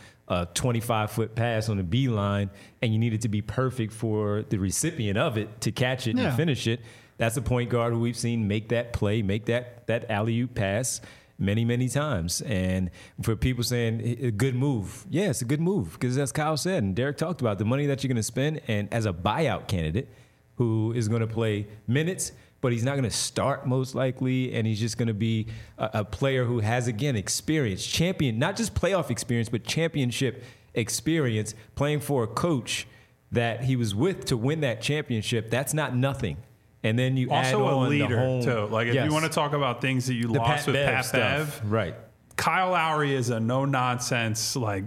Speaker 1: 25-foot pass on the beeline and you need it to be perfect for the recipient of it to catch it and finish it. That's a point guard who we've seen make that play, make that alley-oop pass many, many times. And for people saying a good move, yeah, it's a good move because as Kyle said and Derek talked about, the money that you're going to spend, and as a buyout candidate who is going to play minutes, but he's not going to start most likely, and he's just going to be a player who has, again, experience, champion, not just playoff experience, but championship experience, playing for a coach that he was with to win that championship. That's not nothing. And then you
Speaker 2: also
Speaker 1: add on
Speaker 2: a leader
Speaker 1: the home,
Speaker 2: too. Like if you want to talk about things that you lost with Pat Bev,
Speaker 1: right?
Speaker 2: Kyle Lowry is a no nonsense, like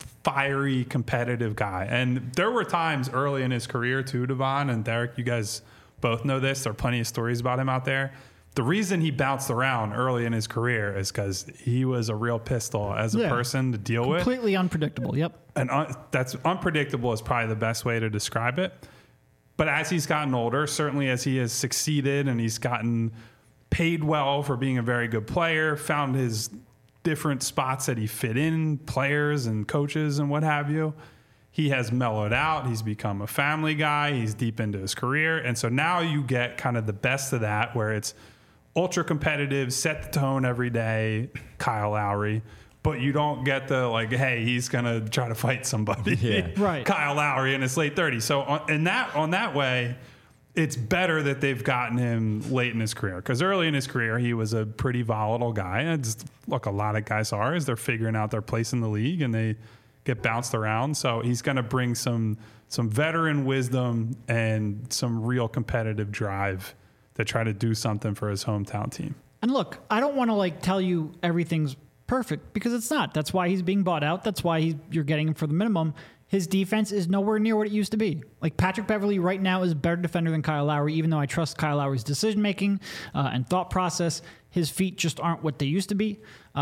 Speaker 2: fiery, competitive guy. And there were times early in his career too, Devon and Derek. You guys both know this. There are plenty of stories about him out there. The reason he bounced around early in his career is because he was a real pistol as a person to deal with.
Speaker 3: Completely unpredictable. Yep.
Speaker 2: And that's unpredictable is probably the best way to describe it. But as he's gotten older, certainly as he has succeeded and he's gotten paid well for being a very good player, found his different spots that he fit in, players and coaches and what have you, he has mellowed out. He's become a family guy. He's deep into his career. And so now you get kind of the best of that where it's ultra competitive, set the tone every day, Kyle Lowry. But you don't get the, like, hey, he's going to try to fight somebody.
Speaker 1: Yeah.
Speaker 3: Right.
Speaker 2: Kyle Lowry in his late 30s. So on that way, it's better that they've gotten him late in his career. Because early in his career, he was a pretty volatile guy. And just, look, a lot of guys are as they're figuring out their place in the league and they get bounced around. So he's going to bring some veteran wisdom and some real competitive drive to try to do something for his hometown team.
Speaker 3: And look, I don't want to tell you everything's perfect because it's not. That's why he's being bought out. That's why you're getting him for the minimum. His defense is nowhere near what it used to be. Like Patrick Beverley right now is a better defender than Kyle Lowry, even though I trust Kyle Lowry's decision-making and thought process. His feet just aren't what they used to be.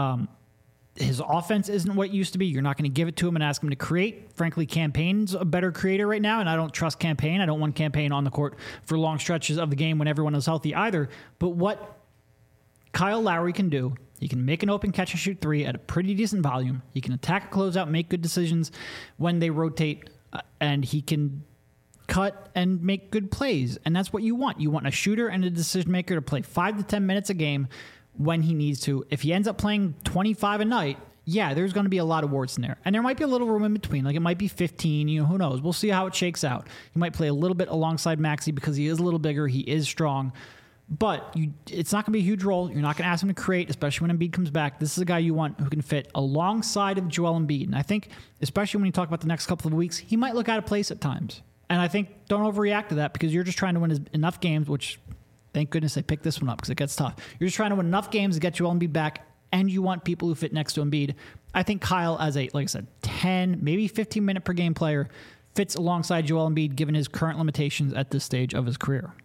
Speaker 3: His offense isn't what it used to be. You're not going to give it to him and ask him to create. Frankly, Campaign's a better creator right now, and I don't trust Campaign. I don't want Campaign on the court for long stretches of the game when everyone is healthy either. But what Kyle Lowry can do, he can make an open catch and shoot three at a pretty decent volume. He can attack a closeout, make good decisions when they rotate, and he can cut and make good plays. And that's what you want. You want a shooter and a decision maker to play 5 to 10 minutes a game when he needs to. If he ends up playing 25 a night, yeah, there's going to be a lot of warts in there. And there might be a little room in between. Like it might be 15, who knows? We'll see how it shakes out. He might play a little bit alongside Maxey because he is a little bigger. He is strong. But it's not going to be a huge role. You're not going to ask him to create, especially when Embiid comes back. This is a guy you want who can fit alongside of Joel Embiid. And I think, especially when you talk about the next couple of weeks, he might look out of place at times. And I think don't overreact to that because you're just trying to win enough games, which thank goodness they picked this one up because it gets tough. You're just trying to win enough games to get Joel Embiid back, and you want people who fit next to Embiid. I think Kyle, as a, like I said, 10, maybe 15-minute per game player, fits alongside Joel Embiid given his current limitations at this stage of his career.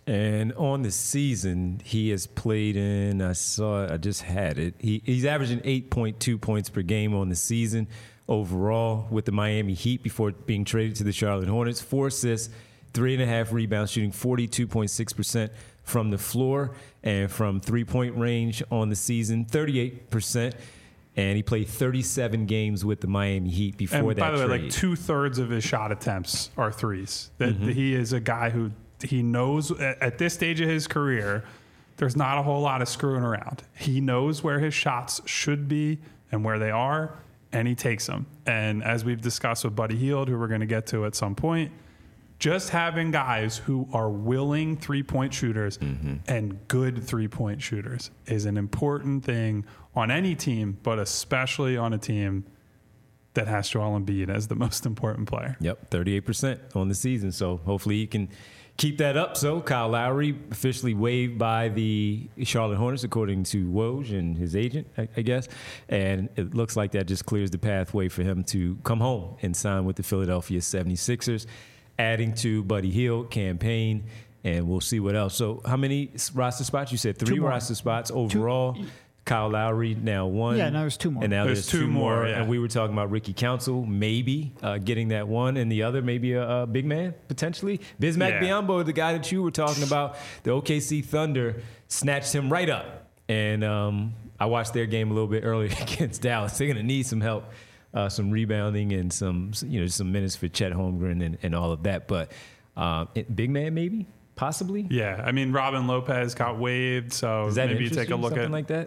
Speaker 1: And on the season, he has played in, I just had it. He's averaging 8.2 points per game on the season overall with the Miami Heat before being traded to the Charlotte Hornets. 4 assists, 3.5 rebounds, shooting 42.6% from the floor, and from three-point range on the season, 38%. And he played 37 games with the Miami Heat before that trade.
Speaker 2: And by the way, like 2/3 of his shot attempts are threes. That he is a guy who he knows at this stage of his career, there's not a whole lot of screwing around. He knows where his shots should be and where they are, and he takes them. And as we've discussed with Buddy Hield, who we're going to get to at some point, just having guys who are willing three-point shooters and good three-point shooters is an important thing on any team, but especially on a team that has Joel Embiid as the most important player.
Speaker 1: Yep, 38% on the season. So hopefully he can keep that up. So Kyle Lowry officially waived by the Charlotte Hornets, according to Woj and his agent, I guess. And it looks like that just clears the pathway for him to come home and sign with the Philadelphia 76ers, adding to Buddy Hield campaign. And we'll see what else. So how many roster spots? You said 3 roster spots overall. Kyle Lowry now 1.
Speaker 3: Yeah, now there's 2 more.
Speaker 1: And now there's 2 more.
Speaker 2: Yeah.
Speaker 1: And we were talking about Ricky Council maybe getting that 1, and the other maybe a big man potentially. Bismack Biyombo, the guy that you were talking about, the OKC Thunder snatched him right up. And I watched their game a little bit earlier against Dallas. They're going to need some help, some rebounding and some minutes for Chet Holmgren and all of that. But big man maybe, possibly.
Speaker 2: Yeah, I mean Robin Lopez got waived, so maybe you take a look
Speaker 1: something
Speaker 2: at
Speaker 1: like that.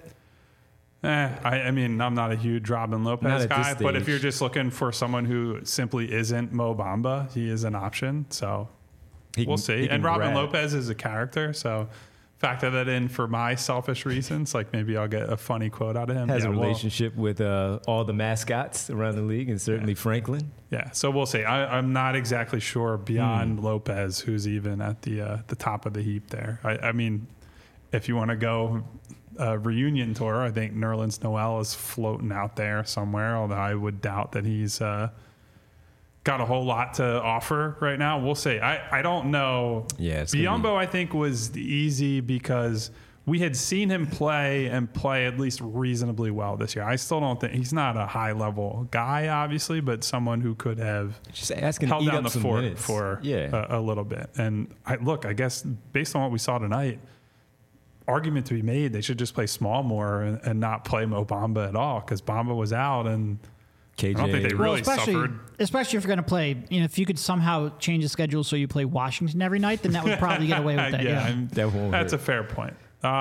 Speaker 2: I mean, I'm not a huge Robin Lopez guy, but if you're just looking for someone who simply isn't Mo Bamba, he is an option. So we'll see. And Robin Lopez is a character, so factor that in for my selfish reasons. Like maybe I'll get a funny quote out of him.
Speaker 1: Has a relationship with all the mascots around the league, and certainly Franklin.
Speaker 2: Yeah, so we'll see. I'm not exactly sure beyond Lopez who's even at the top of the heap there. I mean, if you want to go reunion tour, I think Nerlens Noel is floating out there somewhere, although I would doubt that he's got a whole lot to offer right now. We'll see. I don't know.
Speaker 1: Yeah,
Speaker 2: Biyombo, I think, was easy because we had seen him play at least reasonably well this year. I still don't think he's not a high level guy, obviously, but someone who could have
Speaker 1: just asking
Speaker 2: held
Speaker 1: to eat
Speaker 2: down
Speaker 1: up
Speaker 2: the
Speaker 1: some
Speaker 2: fort
Speaker 1: minutes.
Speaker 2: for a little bit. And I guess based on what we saw tonight, argument to be made, they should just play small more and not play Mo Bamba at all, because Bamba was out and
Speaker 1: KJ.
Speaker 2: I don't think they really suffered.
Speaker 3: Especially if you're going to play, if you could somehow change the schedule so you play Washington every night, then that would probably get away with that.
Speaker 2: That's a fair point.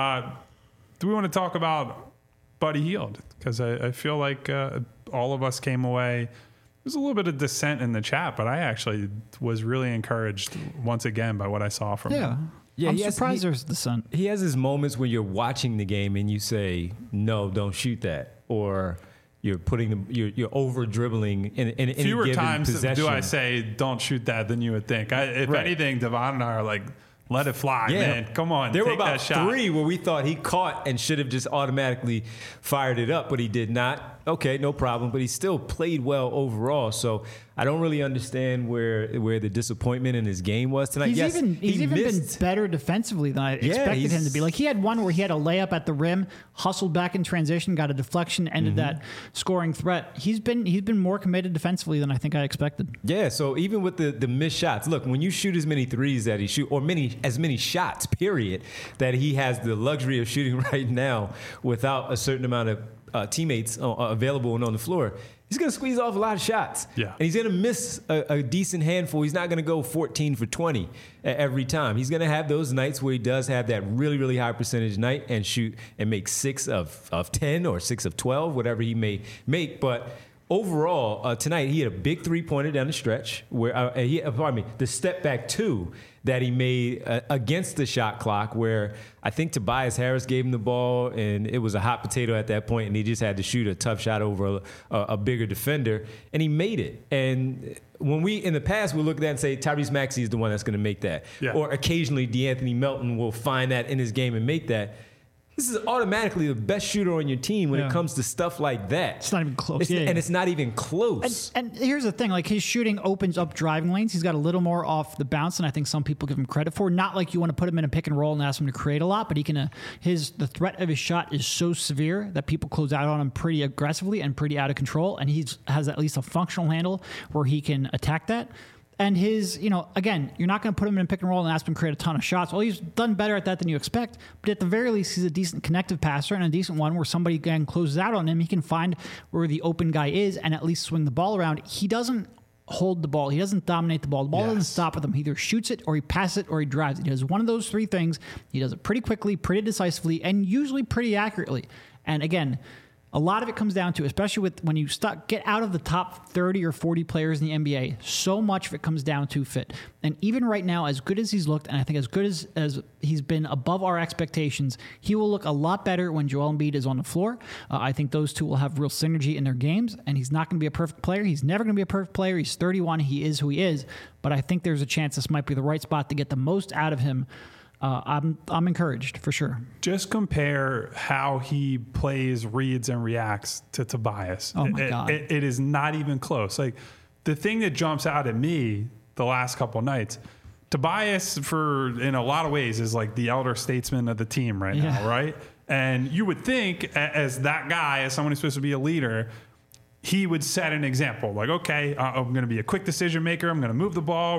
Speaker 2: Do we want to talk about Buddy Hield? Because I feel like all of us came away. There's a little bit of dissent in the chat, but I actually was really encouraged once again by what I saw from him.
Speaker 3: Yeah, I'm surprised there's dissent.
Speaker 1: He has his moments when you're watching the game and you say, "No, don't shoot that," or you're you're over dribbling in any
Speaker 2: fewer
Speaker 1: given
Speaker 2: times
Speaker 1: possession.
Speaker 2: do I say don't shoot that than you would think. If anything, Devon and I are like, let it fly, man. Come on,
Speaker 1: there
Speaker 2: take
Speaker 1: were about
Speaker 2: that shot.
Speaker 1: 3 where we thought he caught and should have just automatically fired it up, but he did not. Okay, no problem. But he still played well overall. So I don't really understand where the disappointment in his game was tonight.
Speaker 3: He's even been better defensively than I expected him to be. Like he had one where he had a layup at the rim, hustled back in transition, got a deflection, ended that scoring threat. He's been more committed defensively than I think I expected.
Speaker 1: Yeah, so even with the missed shots, look, when you shoot as many threes that he shoot, or as many shots, period, that he has the luxury of shooting right now without a certain amount of teammates available and on the floor, he's going to squeeze off a lot of shots.
Speaker 2: Yeah.
Speaker 1: And he's going to miss a decent handful. He's not going to go 14 for 20 every time. He's going to have those nights where he does have that really, really high percentage night and shoot and make 6 of 10 or 6 of 12, whatever he may make. But overall, tonight he had a big three-pointer down the stretch where the step back 2 that he made against the shot clock, where I think Tobias Harris gave him the ball and it was a hot potato at that point, and he just had to shoot a tough shot over a bigger defender, and he made it. And when we in the past we look at that and say Tyrese Maxey is the one that's going to make that, or occasionally DeAnthony Melton will find that in his game and make that. This is automatically the best shooter on your team when it comes to stuff like that.
Speaker 3: It's not even close.
Speaker 1: And it's not even close.
Speaker 3: And here's the thing, like his shooting opens up driving lanes. He's got a little more off the bounce than I think some people give him credit for. Not like you want to put him in a pick and roll and ask him to create a lot, but he can. The threat of his shot is so severe that people close out on him pretty aggressively and pretty out of control. And he has at least a functional handle where he can attack that. And his, again, you're not going to put him in a pick and roll and ask him to create a ton of shots. Well, he's done better at that than you expect. But at the very least, he's a decent connective passer and a decent one where somebody again closes out on him. He can find where the open guy is and at least swing the ball around. He doesn't hold the ball. He doesn't dominate the ball. The ball doesn't stop with him. He either shoots it or he passes it or he drives it. He does one of those three things. He does it pretty quickly, pretty decisively, and usually pretty accurately. And again, a lot of it comes down to, especially with when you get out of the top 30 or 40 players in the NBA, so much of it comes down to fit. And even right now, as good as he's looked, and I think as good as he's been above our expectations, he will look a lot better when Joel Embiid is on the floor. I think those two will have real synergy in their games, and he's not going to be a perfect player. He's never going to be a perfect player. He's 31. He is who he is. But I think there's a chance this might be the right spot to get the most out of him. I'm encouraged for sure.
Speaker 2: Just compare how he plays, reads, and reacts to Tobias.
Speaker 3: Oh my God.
Speaker 2: It is not even close. Like the thing that jumps out at me the last couple of nights, Tobias, in a lot of ways, is like the elder statesman of the team right now, right? And you would think, as that guy, as someone who's supposed to be a leader, he would set an example. Like, okay, I'm going to be a quick decision maker. I'm going to move the ball.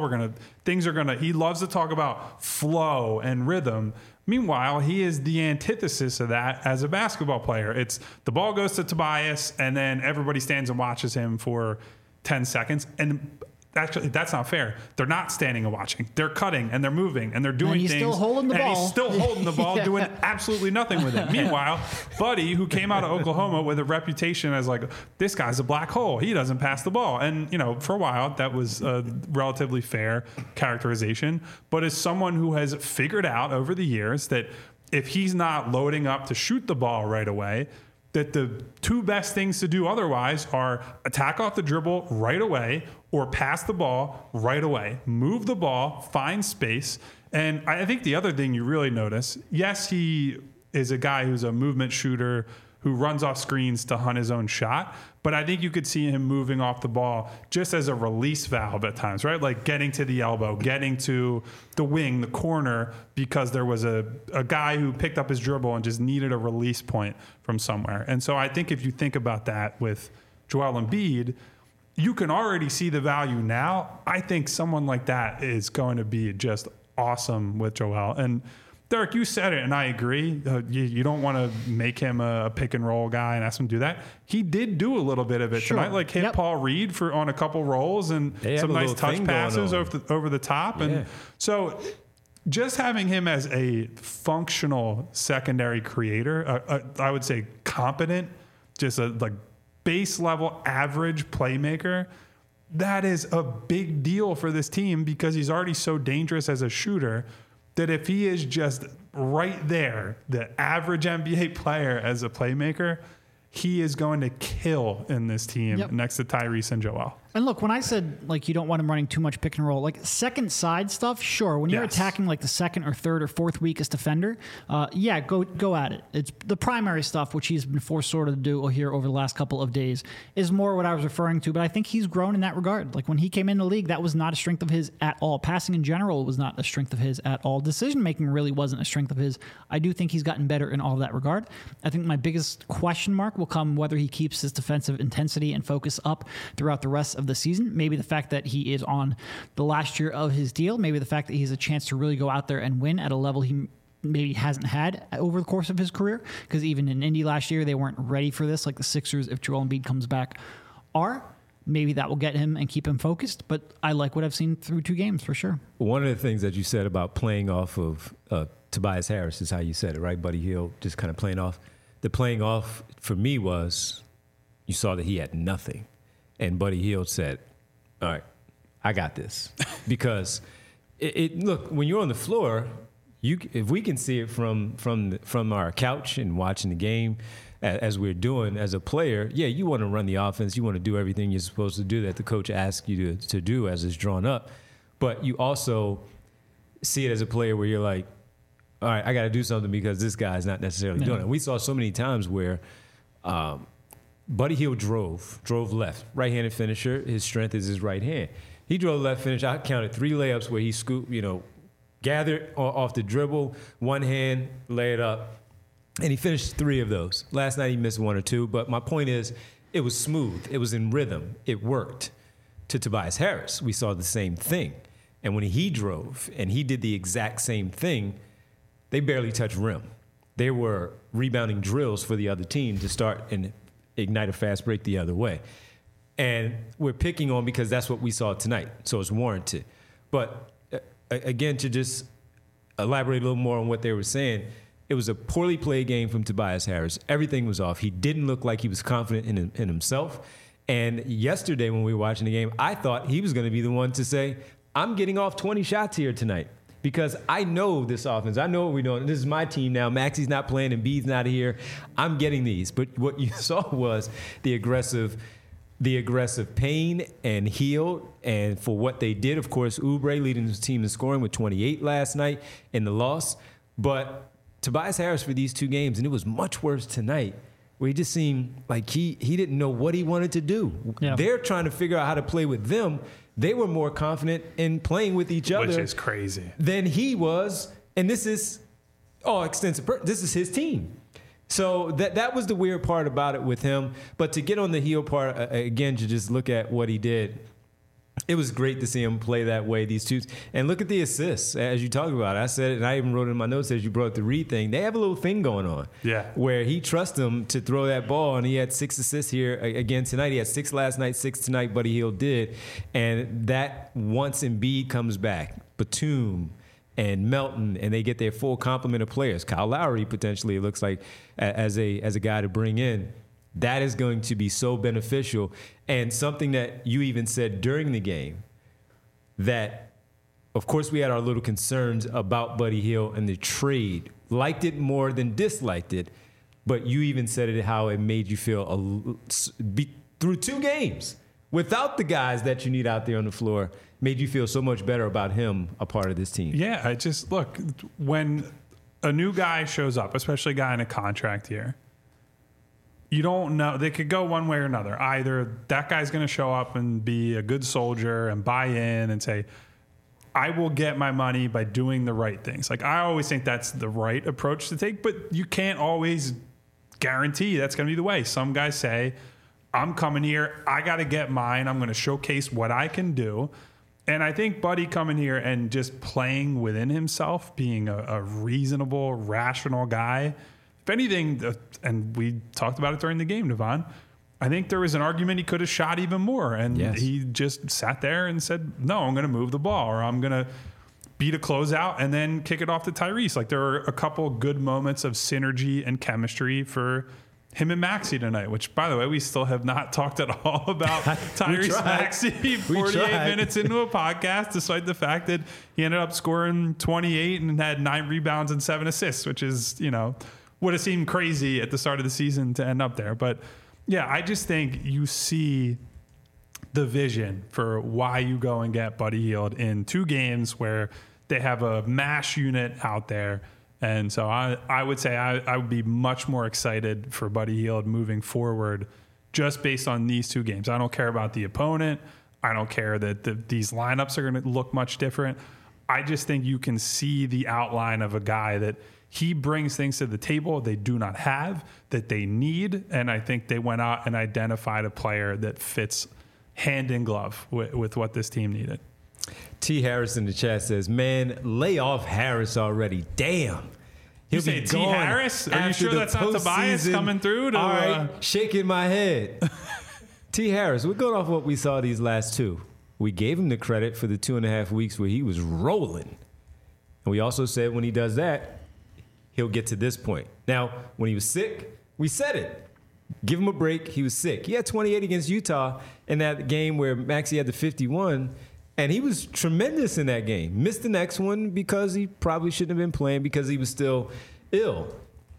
Speaker 2: He loves to talk about flow and rhythm. Meanwhile, he is the antithesis of that as a basketball player. It's the ball goes to Tobias, and then everybody stands and watches him for 10 seconds. And actually, that's not fair. They're not standing and watching. They're cutting and they're moving and they're doing
Speaker 3: and he's
Speaker 2: things.
Speaker 3: Still holding the
Speaker 2: and
Speaker 3: ball.
Speaker 2: he's still holding the ball, doing absolutely nothing with it. Meanwhile, Buddy, who came out of Oklahoma with a reputation as like, this guy's a black hole. He doesn't pass the ball. And, for a while, that was a relatively fair characterization. But as someone who has figured out over the years that if he's not loading up to shoot the ball right away, that the two best things to do otherwise are attack off the dribble right away or pass the ball right away. Move the ball, find space. And I think the other thing you really notice, yes, he is a guy who's a movement shooter who runs off screens to hunt his own shot. But I think you could see him moving off the ball just as a release valve at times, right? Like getting to the elbow, getting to the wing, the corner, because there was a guy who picked up his dribble and just needed a release point from somewhere. And so I think if you think about that with Joel Embiid, you can already see the value now. I think someone like that is going to be just awesome with Joel. And Derek, you said it, and I agree. You don't want to make him a pick and roll guy and ask him to do that. He did do a little bit of it tonight, like hit Paul Reed on a couple rolls and some nice touch passes over the top. And so just having him as a functional secondary creator, I would say competent, just a like base level average playmaker, that is a big deal for this team because he's already so dangerous as a shooter that if he is just right there, the average NBA player as a playmaker, he is going to kill in this team next to Tyrese and Joel.
Speaker 3: And look, when I said like you don't want him running too much pick and roll, like second side stuff, sure. When you're attacking like the second or third or fourth weakest defender, go at it. It's the primary stuff, which he's been forced sort of to do here over the last couple of days, is more what I was referring to. But I think he's grown in that regard. Like when he came in the league, that was not a strength of his at all. Passing in general was not a strength of his at all. Decision making really wasn't a strength of his. I do think he's gotten better in all of that regard. I think my biggest question mark will come whether he keeps his defensive intensity and focus up throughout the rest of the season. Maybe the fact that he is on the last year of his deal, maybe the fact that he has a chance to really go out there and win at a level he maybe hasn't had over the course of his career, because even in Indy last year, they weren't ready for this, like the Sixers, if Joel Embiid comes back, are. Maybe that will get him and keep him focused, but I like what I've seen through 2 games for sure.
Speaker 1: One of the things that you said about playing off of Tobias Harris is how you said it, right? Buddy Hield just kind of playing off. The playing off for me was you saw that he had nothing. And Buddy Hield said, all right, I got this. Because look, when you're on the floor, if we can see it from our couch and watching the game, as we're doing as a player, you want to run the offense. You want to do everything you're supposed to do that the coach asks you to do as it's drawn up. But you also see it as a player where you're like, all right, I got to do something because this guy's not necessarily doing it. We saw so many times where Buddy Hield drove left, right-handed finisher. His strength is his right hand. He drove left finish. I counted 3 layups where he scooped, gathered off the dribble, one hand, lay it up, and he finished 3 of those. Last night he missed 1 or 2, but my point is it was smooth. It was in rhythm. It worked. To Tobias Harris, we saw the same thing. And when he drove and he did the exact same thing, they barely touched rim. They were rebounding drills for the other team to start and ignite a fast break the other way. And we're picking on because that's what we saw tonight, so it's warranted. But again, to just elaborate a little more on what they were saying, it was a poorly played game from Tobias Harris. Everything was off. He didn't look like he was confident in himself. And yesterday when we were watching the game, I thought he was going to be the one to say, I'm getting off 20 shots here tonight because I know this offense. I know what we're doing. This is my team now. Maxi's not playing and B's not here. I'm getting these. But what you saw was the aggressive pain and Hield. And for what they did, of course, Oubre leading the team in scoring with 28 last night in the loss. But Tobias Harris for these 2 games, and it was much worse tonight, where he just seemed like he didn't know what he wanted to do. Yeah. They're trying to figure out how to play with them. They were more confident in playing with each other.
Speaker 2: Which is crazy.
Speaker 1: Than he was. And this is this is his team. So that was the weird part about it with him. But to get on the Hield part, again, to just look at what he did, it was great to see him play that way, these 2. And look at the assists, as you talk about it. I said it, and I even wrote it in my notes as you brought the Reed thing. They have a little thing going on where he trusts them to throw that ball, and he had 6 assists here again tonight. He had 6 last night, 6 tonight, Buddy Hield did. And that once Embiid comes back, Batum and Melton, and they get their full complement of players. Kyle Lowry, potentially, it looks like, as a guy to bring in. That is going to be so beneficial. And something that you even said during the game, that, of course, we had our little concerns about Buddy Hield and the trade. Liked it more than disliked it. But you even said it how it made you feel through 2 games without the guys that you need out there on the floor, made you feel so much better about him, a part of this team.
Speaker 2: Yeah, I just, look, when a new guy shows up, especially a guy in a contract here, you don't know. They could go one way or another. Either that guy's going to show up and be a good soldier and buy in and say, I will get my money by doing the right things. Like, I always think that's the right approach to take, but you can't always guarantee that's going to be the way. Some guys say, I'm coming here, I got to get mine, I'm going to showcase what I can do. And I think Buddy coming here and just playing within himself, being a reasonable, rational guy, if anything, and we talked about it during the game, Devon, I think there was an argument he could have shot even more. And he just sat there and said, no, I'm going to move the ball, or I'm going to beat a closeout and then kick it off to Tyrese. Like, there were a couple good moments of synergy and chemistry for him and Maxey tonight, which, by the way, we still have not talked at all about Tyrese Maxey 48 minutes into a podcast, despite the fact that he ended up scoring 28 and had 9 rebounds and 7 assists, which is, would have seemed crazy at the start of the season to end up there. But yeah, I just think you see the vision for why you go and get Buddy Hield in 2 games where they have a MASH unit out there. And so I would say I would be much more excited for Buddy Hield moving forward just based on these 2 games. I don't care about the opponent. I don't care that these lineups are going to look much different. I just think you can see the outline of a guy that he brings things to the table they do not have, that they need. And I think they went out and identified a player that fits hand in glove with what this team needed.
Speaker 1: T. Harris in the chat says, man, lay off Harris already. Damn.
Speaker 2: You say T. Harris? Are you sure that's not Tobias coming through?
Speaker 1: All right, shaking my head. T. Harris, we're going off what we saw these last 2. We gave him the credit for the 2.5 weeks where he was rolling. And we also said when he does that, he'll get to this point. Now, when he was sick, we said it. Give him a break. He was sick. He had 28 against Utah in that game where Maxey had the 51. And he was tremendous in that game. Missed the next one because he probably shouldn't have been playing because he was still ill.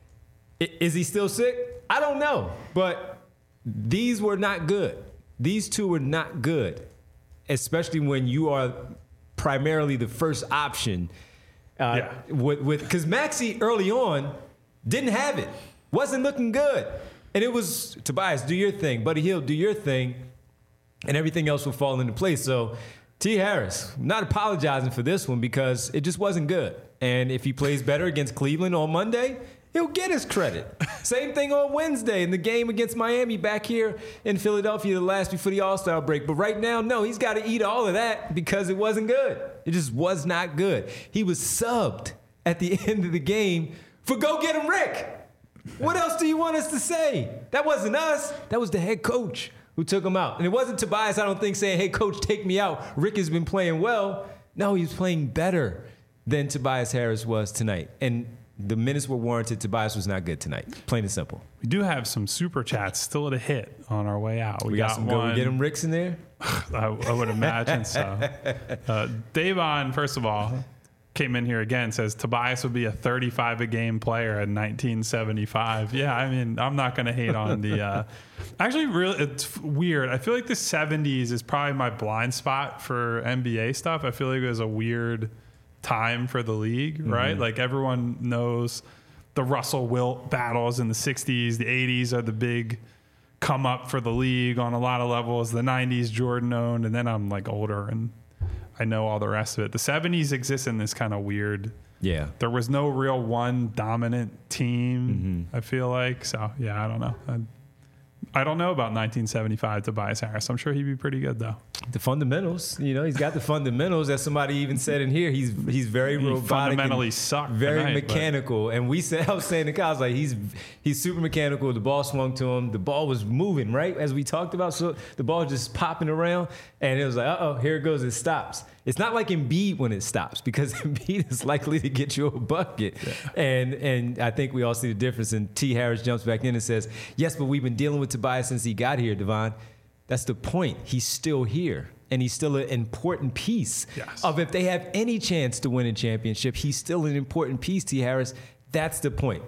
Speaker 1: Is he still sick? I don't know. But these were not good. These 2 were not good, especially when you are primarily the first option Because Maxey early on didn't have it, wasn't looking good. And it was, Tobias, do your thing. Buddy Hield, do your thing. And everything else will fall into place. So T. Harris, not apologizing for this one because it just wasn't good. And if he plays better against Cleveland on Monday, he'll get his credit. Same thing on Wednesday in the game against Miami back here in Philadelphia, the last before the All-Star break. But right now, no, he's got to eat all of that because it wasn't good. It just was not good. He was subbed at the end of the game for go get him, Rick. What else do you want us to say? That wasn't us. That was the head coach who took him out. And it wasn't Tobias, I don't think, saying, hey, coach, take me out. Rick has been playing well. No, he was playing better than Tobias Harris was tonight. And the minutes were warranted. Tobias was not good tonight. Plain and simple.
Speaker 2: We do have some super chats still to hit on our way out.
Speaker 1: We got some
Speaker 2: one.
Speaker 1: Go get him Ricks in there?
Speaker 2: I would imagine so. Davon, first of all, came in here again, says Tobias would be a 35-a-game player in 1975. Yeah, I mean, I'm not going to hate on the actually, really, it's weird. I feel like the 70s is probably my blind spot for NBA stuff. I feel like it was a weird time for the league, right? Like everyone knows the Russell Wilt battles in the 60s. The 80s are the big come up for the league on a lot of levels. The 90s Jordan owned, and then I'm like older and I know all the rest of it. The 70s exists in this kind of weird.
Speaker 1: Yeah.
Speaker 2: There was no real one dominant team, I feel like. So, yeah, I don't know. I don't know about 1975 Tobias Harris. I'm sure he'd be pretty good, though.
Speaker 1: The fundamentals, he's got the fundamentals. As somebody even said in here, he's very robotic.
Speaker 2: Fundamentally sucked.
Speaker 1: Very
Speaker 2: tonight,
Speaker 1: mechanical. And I was saying to Kyle, I was like, he's super mechanical. The ball swung to him. The ball was moving, right? As we talked about. So the ball just popping around. And it was like, uh-oh, here it goes. It stops. It's not like Embiid when it stops because Embiid is likely to get you a bucket. Yeah. And I think we all see the difference. And T. Harris jumps back in and says, yes, but we've been dealing with Tobias since he got here, Devon. That's the point. He's still here. And he's still an important piece of if they have any chance to win a championship, he's still an important piece, T. Harris. That's the point.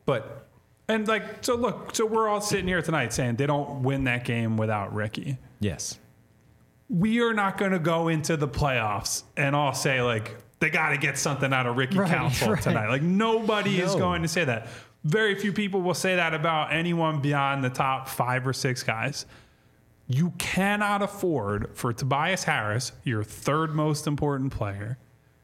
Speaker 2: So we're all sitting here tonight saying they don't win that game without Ricky.
Speaker 1: Yes.
Speaker 2: We are not going to go into the playoffs and all say, like, they got to get something out of Ricky Council tonight. Like, nobody is going to say that. Very few people will say that about anyone beyond the top 5 or 6 guys. You cannot afford for Tobias Harris, your third most important player,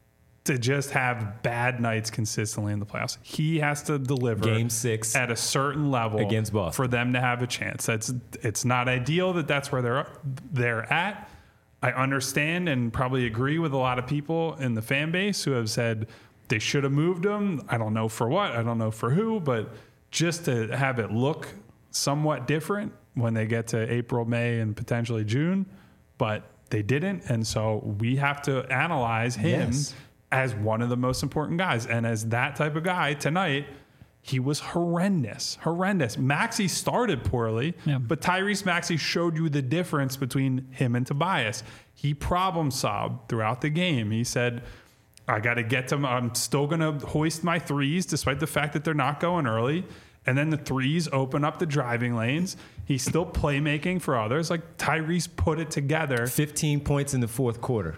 Speaker 2: to just have bad nights consistently in the playoffs. He has to deliver
Speaker 1: Game 6
Speaker 2: at a certain level
Speaker 1: against Boston
Speaker 2: for them to have a chance. It's not ideal that's where they're at. I understand and probably agree with a lot of people in the fan base who have said they should have moved him. I don't know for what. I don't know for who, but just to have it look somewhat different when they get to April, May, and potentially June, but they didn't. And so we have to analyze him as one of the most important guys. And as that type of guy tonight, he was horrendous. Maxey started poorly, but Tyrese Maxey showed you the difference between him and Tobias. He problem solved throughout the game. He said, I got to get to him. I'm still going to hoist my threes despite the fact that they're not going early. And then the threes open up the driving lanes. He's still playmaking for others. Like Tyrese put it together.
Speaker 1: 15 points in the fourth quarter.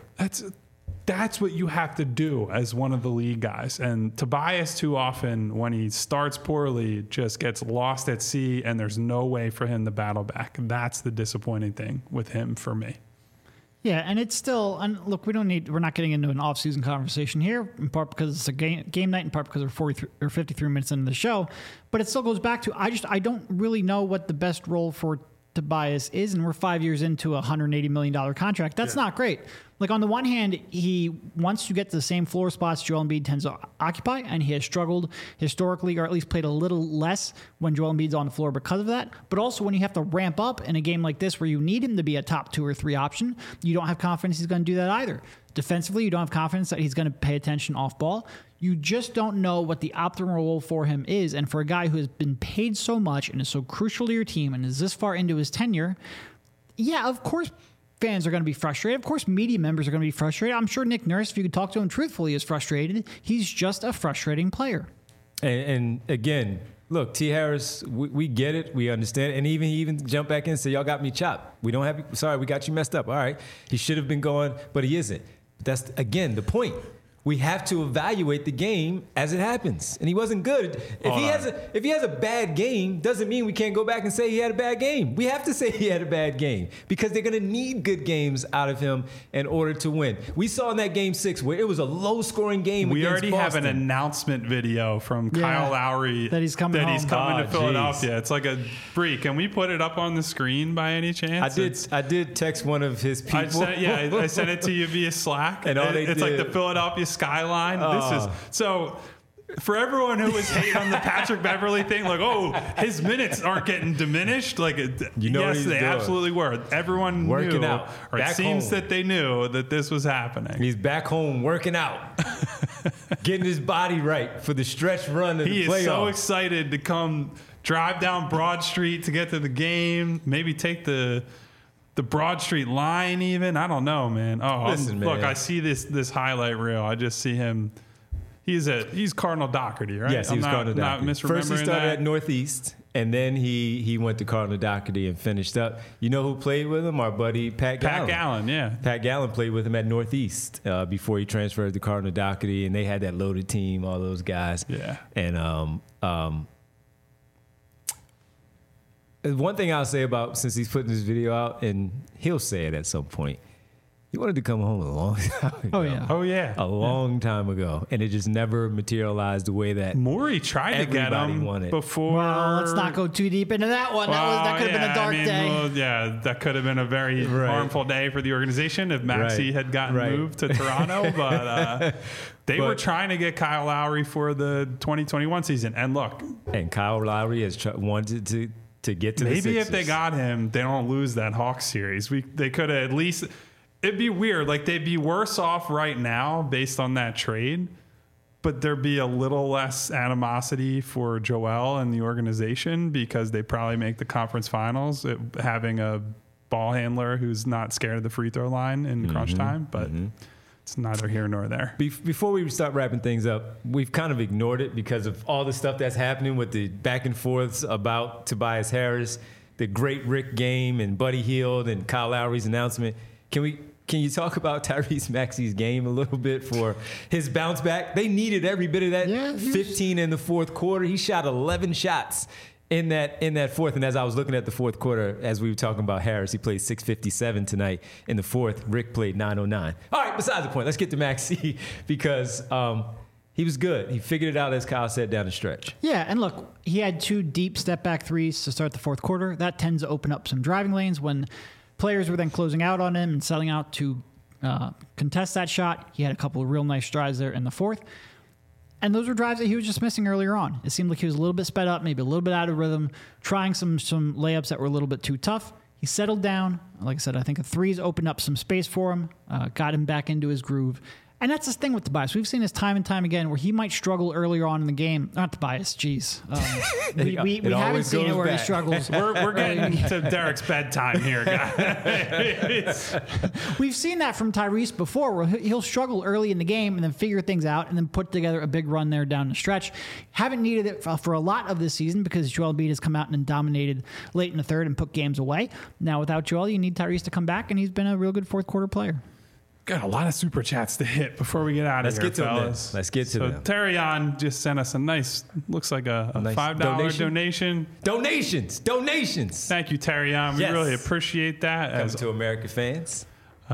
Speaker 2: That's what you have to do as one of the league guys. And Tobias, too often, when he starts poorly, just gets lost at sea, and there's no way for him to battle back. That's the disappointing thing with him for me.
Speaker 3: Yeah, and it's still, and look, we're not getting into an off-season conversation here, in part because it's a game night, in part because we're 43 or 53 minutes into the show. But it still goes back to, I don't really know what the best role for Tobias is, and we're 5 years into a $180 million contract. That's not great. Like, on the one hand, he wants to get to the same floor spots Joel Embiid tends to occupy, and he has struggled historically, or at least played a little less when Joel Embiid's on the floor because of that. But also, when you have to ramp up in a game like this where you need him to be a top 2 or 3 option, you don't have confidence he's going to do that either. Defensively, you don't have confidence that he's going to pay attention off ball. You just don't know what the optimal role for him is. And for a guy who has been paid so much and is so crucial to your team and is this far into his tenure, yeah, of course, fans are going to be frustrated. Of course, media members are going to be frustrated. I'm sure Nick Nurse, if you could talk to him truthfully, is frustrated. He's just a frustrating player.
Speaker 1: And again, look, T. Harris, we get it. We understand. And he even jumped back in and said, y'all got me chopped. We don't have, sorry, we got you messed up. All right. He should have been going, but he isn't. That's, again, the point. we have to evaluate the game as it happens. And he wasn't good. If he has a bad game, doesn't mean we can't go back and say he had a bad game. We have to say he had a bad game because they're going to need good games out of him in order to win. We saw in that game 6 where it was a low-scoring game.
Speaker 2: We
Speaker 1: against
Speaker 2: already
Speaker 1: Boston.
Speaker 2: have an announcement video from Kyle Lowry
Speaker 3: that he's coming
Speaker 2: to Philadelphia. It's like a freak. Can we put it up on the screen by any chance?
Speaker 1: I did text one of his people.
Speaker 2: I sent it to you via Slack.
Speaker 1: And
Speaker 2: it's like the Philadelphia skyline. This is so. For everyone who was hating on the Patrick Beverley thing, like, oh, his minutes aren't getting diminished. Like, yes, they absolutely were. Everyone
Speaker 1: working
Speaker 2: knew,
Speaker 1: out.
Speaker 2: or it seems that they knew that this was happening.
Speaker 1: He's back home working out, getting his body right for the stretch run of the playoffs. He is
Speaker 2: so excited to come drive down Broad Street to get to the game. Maybe take the Broad Street line even. I don't know, man.
Speaker 1: Listen, man.
Speaker 2: Look, I see this highlight reel. I just see him. He's Cardinal Doherty, right?
Speaker 1: Yes, he was Cardinal Doherty.
Speaker 2: Not misremembering
Speaker 1: First he started at Northeast, and then he went to Cardinal Doherty and finished up. You know who played with him? Our buddy Pat Gallen.
Speaker 2: Pat Gallen, yeah.
Speaker 1: Pat Gallen played with him at Northeast before he transferred to Cardinal Doherty, and they had that loaded team, all those guys.
Speaker 2: Yeah.
Speaker 1: And one thing I'll say about, since he's putting this video out, and he'll say it at some point, he wanted to come home a long time ago.
Speaker 3: Oh, yeah.
Speaker 1: A long time ago. And it just never materialized the way that
Speaker 2: Morey tried to get him
Speaker 1: wanted.
Speaker 2: before.
Speaker 3: Well, let's not go too deep into that one. That could have been a dark day.
Speaker 2: Well, that could have been a very harmful day for the organization if Maxey had gotten moved to Toronto. But they were trying to get Kyle Lowry for the 2021 season. And look.
Speaker 1: And Kyle Lowry has wanted to get to the Sixers.
Speaker 2: Maybe if they got him, they don't lose that Hawks series. They could have at least... It'd be weird. Like, they'd be worse off right now based on that trade, but there'd be a little less animosity for Joel and the organization because they probably make the conference finals having a ball handler who's not scared of the free throw line in crunch time. But it's neither here nor there.
Speaker 1: Before we start wrapping things up, we've kind of ignored it because of all the stuff that's happening with the back and forths about Tobias Harris, the great Rick game, and Buddy Hield and Kyle Lowry's announcement. Can you talk about Tyrese Maxey's game a little bit for his bounce back? They needed every bit of that. 15 in the fourth quarter. He shot 11 shots in that fourth. And as I was looking at the fourth quarter, as we were talking about Harris, he played 6:57 tonight in the fourth. Rick played 9:09. All right, besides the point, let's get to Maxey because he was good. He figured it out, as Kyle said, down the stretch.
Speaker 3: Yeah, and look, he had 2 deep step-back threes to start the fourth quarter. That tends to open up some driving lanes when players were then closing out on him and selling out to contest that shot. He had a couple of real nice drives there in the fourth. And those were drives that he was just missing earlier on. It seemed like he was a little bit sped up, maybe a little bit out of rhythm, trying some layups that were a little bit too tough. He settled down. Like I said, I think the threes opened up some space for him, got him back into his groove. And that's the thing with Tobias. We've seen this time and time again where he might struggle earlier on in the game. Not Tobias, jeez. We haven't seen it where he struggles.
Speaker 2: We're getting to Derek's bedtime here, guys.
Speaker 3: We've seen that from Tyrese before where he'll struggle early in the game and then figure things out and then put together a big run there down the stretch. Haven't needed it for a lot of this season because Joel Embiid has come out and dominated late in the third and put games away. Now without Joel, you need Tyrese to come back, and he's been a real good fourth quarter player.
Speaker 2: Got a lot of super chats to hit before we get out of here, fellas.
Speaker 1: Let's get to them.
Speaker 2: So Terrion just sent us a nice, looks like a nice $5 donation.
Speaker 1: Donations.
Speaker 2: Thank you, Terrion. We really appreciate that.
Speaker 1: Coming to America fans.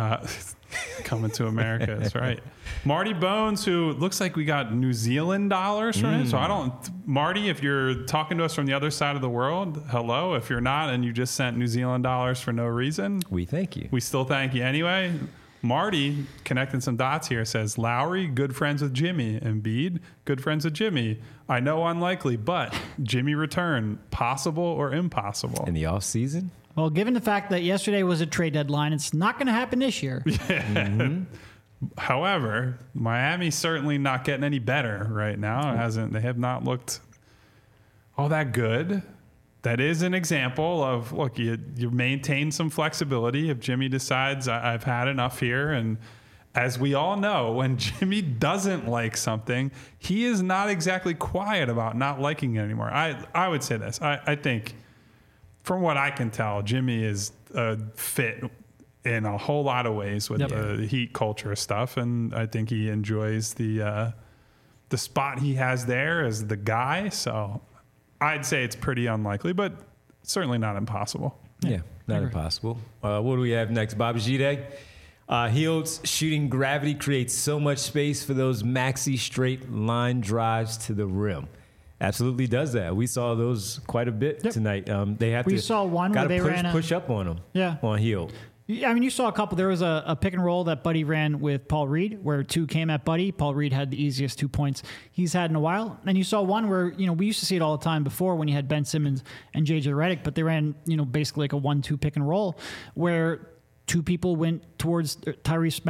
Speaker 2: Coming to America, that's right. Marty Bones, who looks like we got New Zealand dollars from him. So Marty, if you're talking to us from the other side of the world, hello. If you're not and you just sent New Zealand dollars for no reason,
Speaker 1: we thank you.
Speaker 2: We still thank you anyway. Marty, connecting some dots here, says, Lowry, good friends with Jimmy. Embiid, good friends with Jimmy. I know unlikely, but Jimmy return, possible or impossible?
Speaker 1: In the offseason?
Speaker 3: Well, given the fact that yesterday was a trade deadline, it's not going to happen this year.
Speaker 2: Yeah. However, Miami's certainly not getting any better right now. They have not looked all that good. That is an example of, look, you maintain some flexibility if Jimmy decides I've had enough here. And as we all know, when Jimmy doesn't like something, he is not exactly quiet about not liking it anymore. I would say this. I think, from what I can tell, Jimmy is a fit in a whole lot of ways with the Heat culture stuff, and I think he enjoys the spot he has there as the guy. So I'd say it's pretty unlikely, but certainly not impossible.
Speaker 1: Yeah, not impossible. What do we have next? Bobby Gide. Hield's shooting gravity creates so much space for those maxi straight line drives to the rim. Absolutely does that. We saw those quite a bit tonight. We saw one where they push up on them. On Hield.
Speaker 3: I mean, you saw a couple. There was a pick and roll that Buddy ran with Paul Reed, where two came at Buddy. Paul Reed had the easiest 2 points he's had in a while. And you saw one where, we used to see it all the time before when you had Ben Simmons and JJ Redick, but they ran, basically like a 1-2 pick and roll where two people went towards Buddy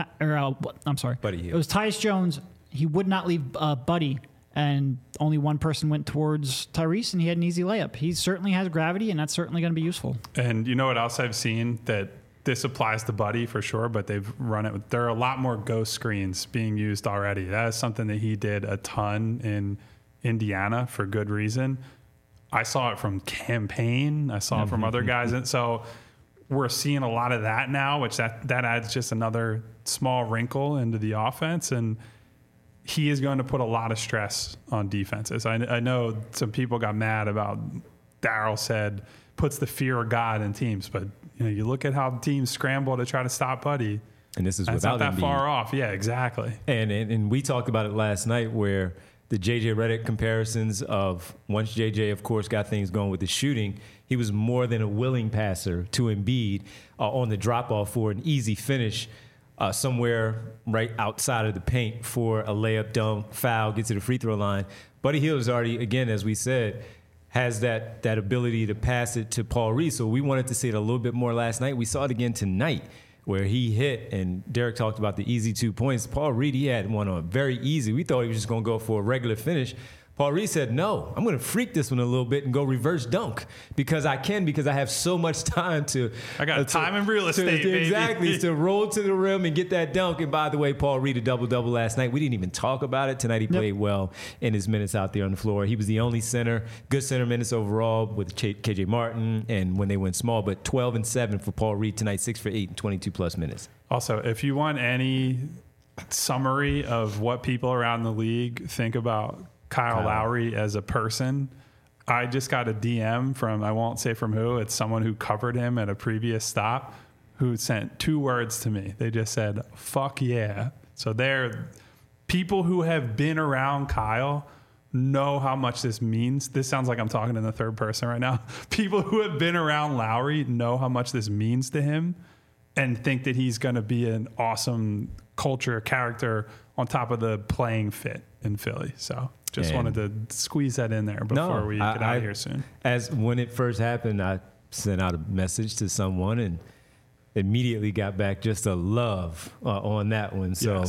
Speaker 3: Hield. It was Tyus Jones. He would not leave Buddy, and only one person went towards Tyrese, and he had an easy layup. He certainly has gravity, and that's certainly going to be useful.
Speaker 2: And you know what else I've seen that this applies to Buddy for sure, but they've run it. There are a lot more ghost screens being used already. That is something that he did a ton in Indiana for good reason. I saw it from Campaign. I saw it from other guys. And so we're seeing a lot of that now, which that adds just another small wrinkle into the offense. And he is going to put a lot of stress on defenses. I know some people got mad about Daryl said puts the fear of God in teams, but you look at how teams scramble to try to stop Buddy,
Speaker 1: and this is
Speaker 2: that's
Speaker 1: without
Speaker 2: not that
Speaker 1: Embiid.
Speaker 2: far off. Yeah, exactly.
Speaker 1: And we talked about it last night, where the JJ Redick comparisons of once JJ, of course, got things going with the shooting, he was more than a willing passer to Embiid on the drop off for an easy finish. Somewhere right outside of the paint for a layup, dunk, foul, get to the free throw line. Buddy Hield is already, again, as we said, has that ability to pass it to Paul Reed. So we wanted to see it a little bit more last night. We saw it again tonight where he hit, and Derek talked about the easy 2 points. Paul Reed, he had one on very easy. We thought he was just going to go for a regular finish. Paul Reed said, no, I'm going to freak this one a little bit and go reverse dunk because I have so much time to.
Speaker 2: I got time and real estate, baby.
Speaker 1: Exactly, to roll to the rim and get that dunk. And by the way, Paul Reed, a double-double last night. We didn't even talk about it. Tonight he played well in his minutes out there on the floor. He was the only center, good center minutes overall with KJ Martin and when they went small, but 12 and 7 for Paul Reed tonight, 6 for 8 and 22-plus minutes.
Speaker 2: Also, if you want any summary of what people around the league think about Kyle Lowry as a person, I just got a DM from, I won't say from who, it's someone who covered him at a previous stop who sent 2 words to me. They just said, fuck yeah. So they're people who have been around Kyle know how much this means. This sounds like I'm talking in the third person right now. People who have been around Lowry know how much this means to him and think that he's going to be an awesome culture character on top of the playing fit in Philly. So just wanted to squeeze that in there before we get out of here soon.
Speaker 1: As when it first happened, I sent out a message to someone and immediately got back just a love on that one. So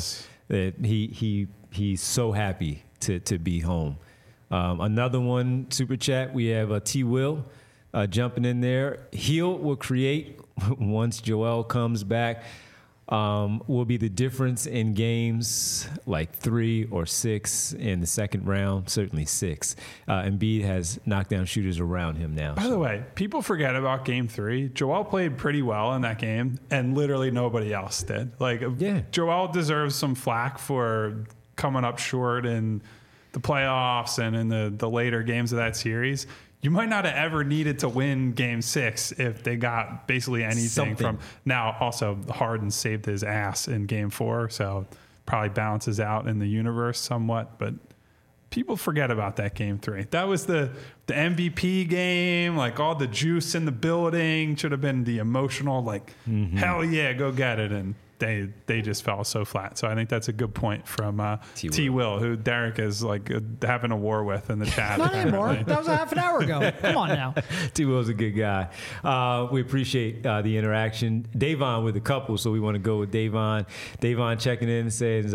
Speaker 1: he's so happy to be home. Another one, Super Chat, we have T. Will jumping in there. Hield will create once Joel comes back. Will be the difference in games like 3 or 6 in the second round, certainly 6. Embiid has knockdown shooters around him now.
Speaker 2: By the way, people forget about game 3. Joel played pretty well in that game, and literally nobody else did. Joel deserves some flack for coming up short in the playoffs and in the later games of that series. You might not have ever needed to win game 6 if they got basically anything from. Now, also, Harden saved his ass in game 4, so probably balances out in the universe somewhat. But people forget about that game 3. That was the MVP game, like all the juice in the building. Should have been the emotional, hell yeah, go get it. And they just fell so flat. So I think that's a good point from T. Will, who Derek is having a war with in the chat.
Speaker 3: Not anymore. That was a half an hour ago. Come on now.
Speaker 1: T. Will's a good guy. We appreciate the interaction. Davon with a couple, so we want to go with Davon. Davon checking in says,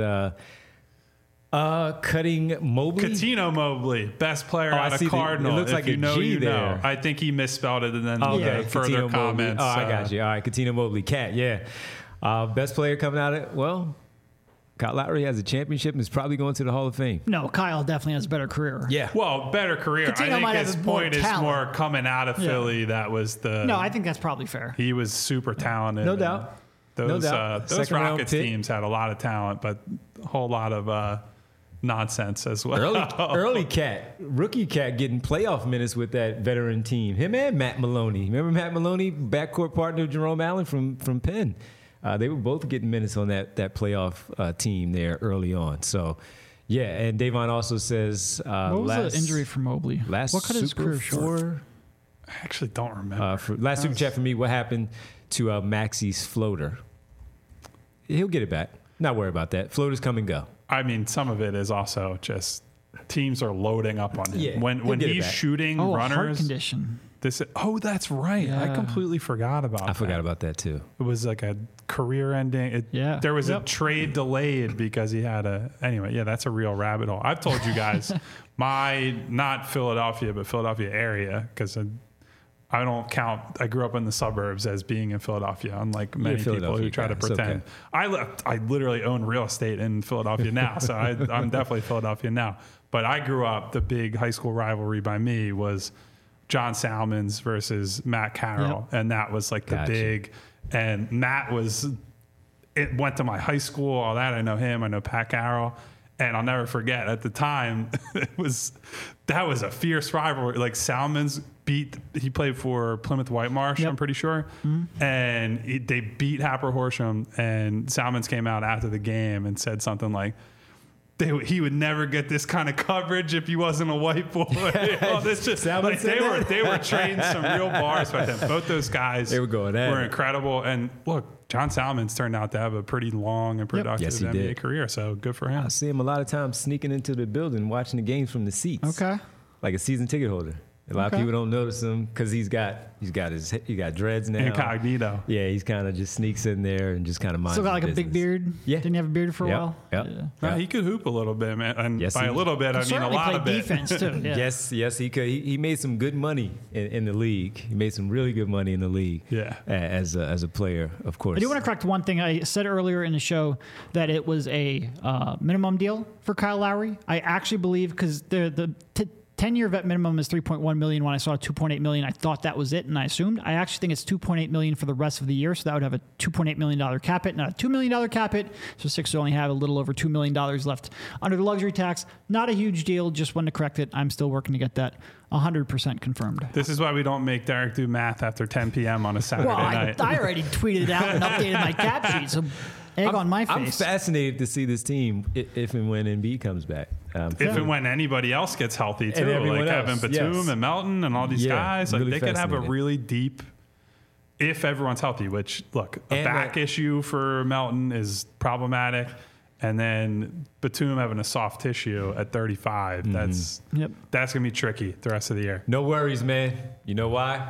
Speaker 1: cutting Mobley.
Speaker 2: Cuttino Mobley, best player out of Cardinal.
Speaker 1: It looks like a G there.
Speaker 2: I think he misspelled it and then further comments.
Speaker 1: I got you. All right, Cuttino Mobley. Cat, yeah. Best player coming out of Kyle Lowry has a championship and is probably going to the Hall of Fame.
Speaker 3: No, Kyle definitely has a better career.
Speaker 1: Yeah.
Speaker 2: Well, better career.
Speaker 3: Cuttino
Speaker 2: I think his point is more coming out of Philly. That was
Speaker 3: No, I think that's probably fair.
Speaker 2: He was super talented.
Speaker 1: No doubt.
Speaker 2: Those
Speaker 1: doubt.
Speaker 2: those
Speaker 1: Second round
Speaker 2: Rockets
Speaker 1: pick.
Speaker 2: teams had a lot of talent, but a whole lot of nonsense as well.
Speaker 1: Rookie cat getting playoff minutes with that veteran team. Him and Matt Maloney. Remember Matt Maloney, backcourt partner of Jerome Allen from Penn? They were both getting minutes on that playoff team there early on. So, yeah, and Davon also says
Speaker 3: what was the injury for Mobley?
Speaker 1: What
Speaker 3: cut his career short?
Speaker 2: I actually don't remember.
Speaker 1: Last super chat for me, what happened to Maxi's floater? He'll get it back. Not worry about that. Floaters come and go.
Speaker 2: I mean, some of it is also just teams are loading up on him.
Speaker 1: Yeah,
Speaker 2: when
Speaker 1: he'll get it
Speaker 2: he's
Speaker 1: back.
Speaker 2: shooting
Speaker 3: Heart
Speaker 2: runners.
Speaker 3: condition.
Speaker 2: That's right. I
Speaker 3: Yeah.
Speaker 2: completely forgot about that.
Speaker 1: I forgot about that too.
Speaker 2: It was like a career ending.
Speaker 3: Yeah.
Speaker 2: There was a
Speaker 3: Yep.
Speaker 2: trade delayed because he had anyway, yeah, that's a real rabbit hole. I've told you guys not Philadelphia, but Philadelphia area, because I don't count. I grew up in the suburbs as being in Philadelphia, unlike many people
Speaker 1: Philadelphia
Speaker 2: who try to
Speaker 1: guy. It's
Speaker 2: pretend.
Speaker 1: okay.
Speaker 2: I literally own real estate in Philadelphia now, so I'm definitely Philadelphia now. But I grew up, the big high school rivalry by me was John Salmons versus Matt Carroll, and that was like the
Speaker 1: Gotcha.
Speaker 2: big. And Matt went to my high school, all that. I know him. I know Pat Carroll. And I'll never forget, at the time, that was a fierce rivalry. Like Salmons he played for Plymouth Whitemarsh,
Speaker 3: Yep.
Speaker 2: I'm pretty sure. And they beat Happer Horsham, and Salmons came out after the game and said something like, he would never get this kind of coverage if he wasn't a white boy. This just, like, they were trading some real bars with him. Both those guys
Speaker 1: They were going at
Speaker 2: were
Speaker 1: it.
Speaker 2: incredible. And look, John Salmons turned out to have a pretty long and productive
Speaker 1: Yes, he
Speaker 2: NBA
Speaker 1: did.
Speaker 2: career, so good for him.
Speaker 1: I see him a lot of times sneaking into the building, watching the games from the seats.
Speaker 3: Okay.
Speaker 1: Like a season ticket holder. A lot of
Speaker 3: Okay.
Speaker 1: people don't notice him because he got dreads now.
Speaker 2: Incognito.
Speaker 1: Yeah, he's kind of just sneaks in there and just kind of minds
Speaker 3: Still got
Speaker 1: his
Speaker 3: like a big
Speaker 1: business.
Speaker 3: beard.
Speaker 1: Yeah.
Speaker 3: Didn't he have a beard for a
Speaker 1: Yep,
Speaker 3: while?
Speaker 1: yep.
Speaker 3: Yeah.
Speaker 2: He could hoop a little bit, man. And
Speaker 1: Yes,
Speaker 2: by
Speaker 1: he-
Speaker 2: a little bit, I mean a
Speaker 3: Certainly
Speaker 2: lot
Speaker 3: played
Speaker 2: of it.
Speaker 3: defense too. Yeah.
Speaker 1: Yes, he could. He made some good money in the league. He made some really good money in the league.
Speaker 2: Yeah.
Speaker 1: As a player, of course.
Speaker 3: I do want to correct one thing. I said earlier in the show that it was a minimum deal for Kyle Lowry. I actually believe because the 10-year vet minimum is $3.1 million. When I saw $2.8 million, I thought that was it, and I assumed. I actually think it's $2.8 million for the rest of the year, so that would have a $2.8 million cap hit, not a $2 million cap hit. So Sixers only have a little over $2 million left under the luxury tax. Not a huge deal. Just wanted to correct it. I'm still working to get that 100% confirmed.
Speaker 2: This is why we don't make Derek do math after 10 p.m. on a Saturday
Speaker 3: Well,
Speaker 2: night.
Speaker 3: I already tweeted it out and updated my cap sheet, so egg on my face.
Speaker 1: I'm fascinated to see this team if and when Embiid comes back.
Speaker 2: If and when anybody else gets healthy too,
Speaker 1: everyone
Speaker 2: like
Speaker 1: else,
Speaker 2: Evan Batum
Speaker 1: yes.
Speaker 2: and Melton and all these
Speaker 1: Yeah,
Speaker 2: guys, like
Speaker 1: really
Speaker 2: they could have a
Speaker 1: fascinating.
Speaker 2: really deep, if everyone's healthy, which look, a
Speaker 1: And
Speaker 2: back issue for Melton is problematic. And then Batum having a soft tissue at 35,
Speaker 1: Mm-hmm.
Speaker 2: that's
Speaker 3: Yep.
Speaker 2: going to be tricky the rest of the year.
Speaker 1: No worries, man. You know why?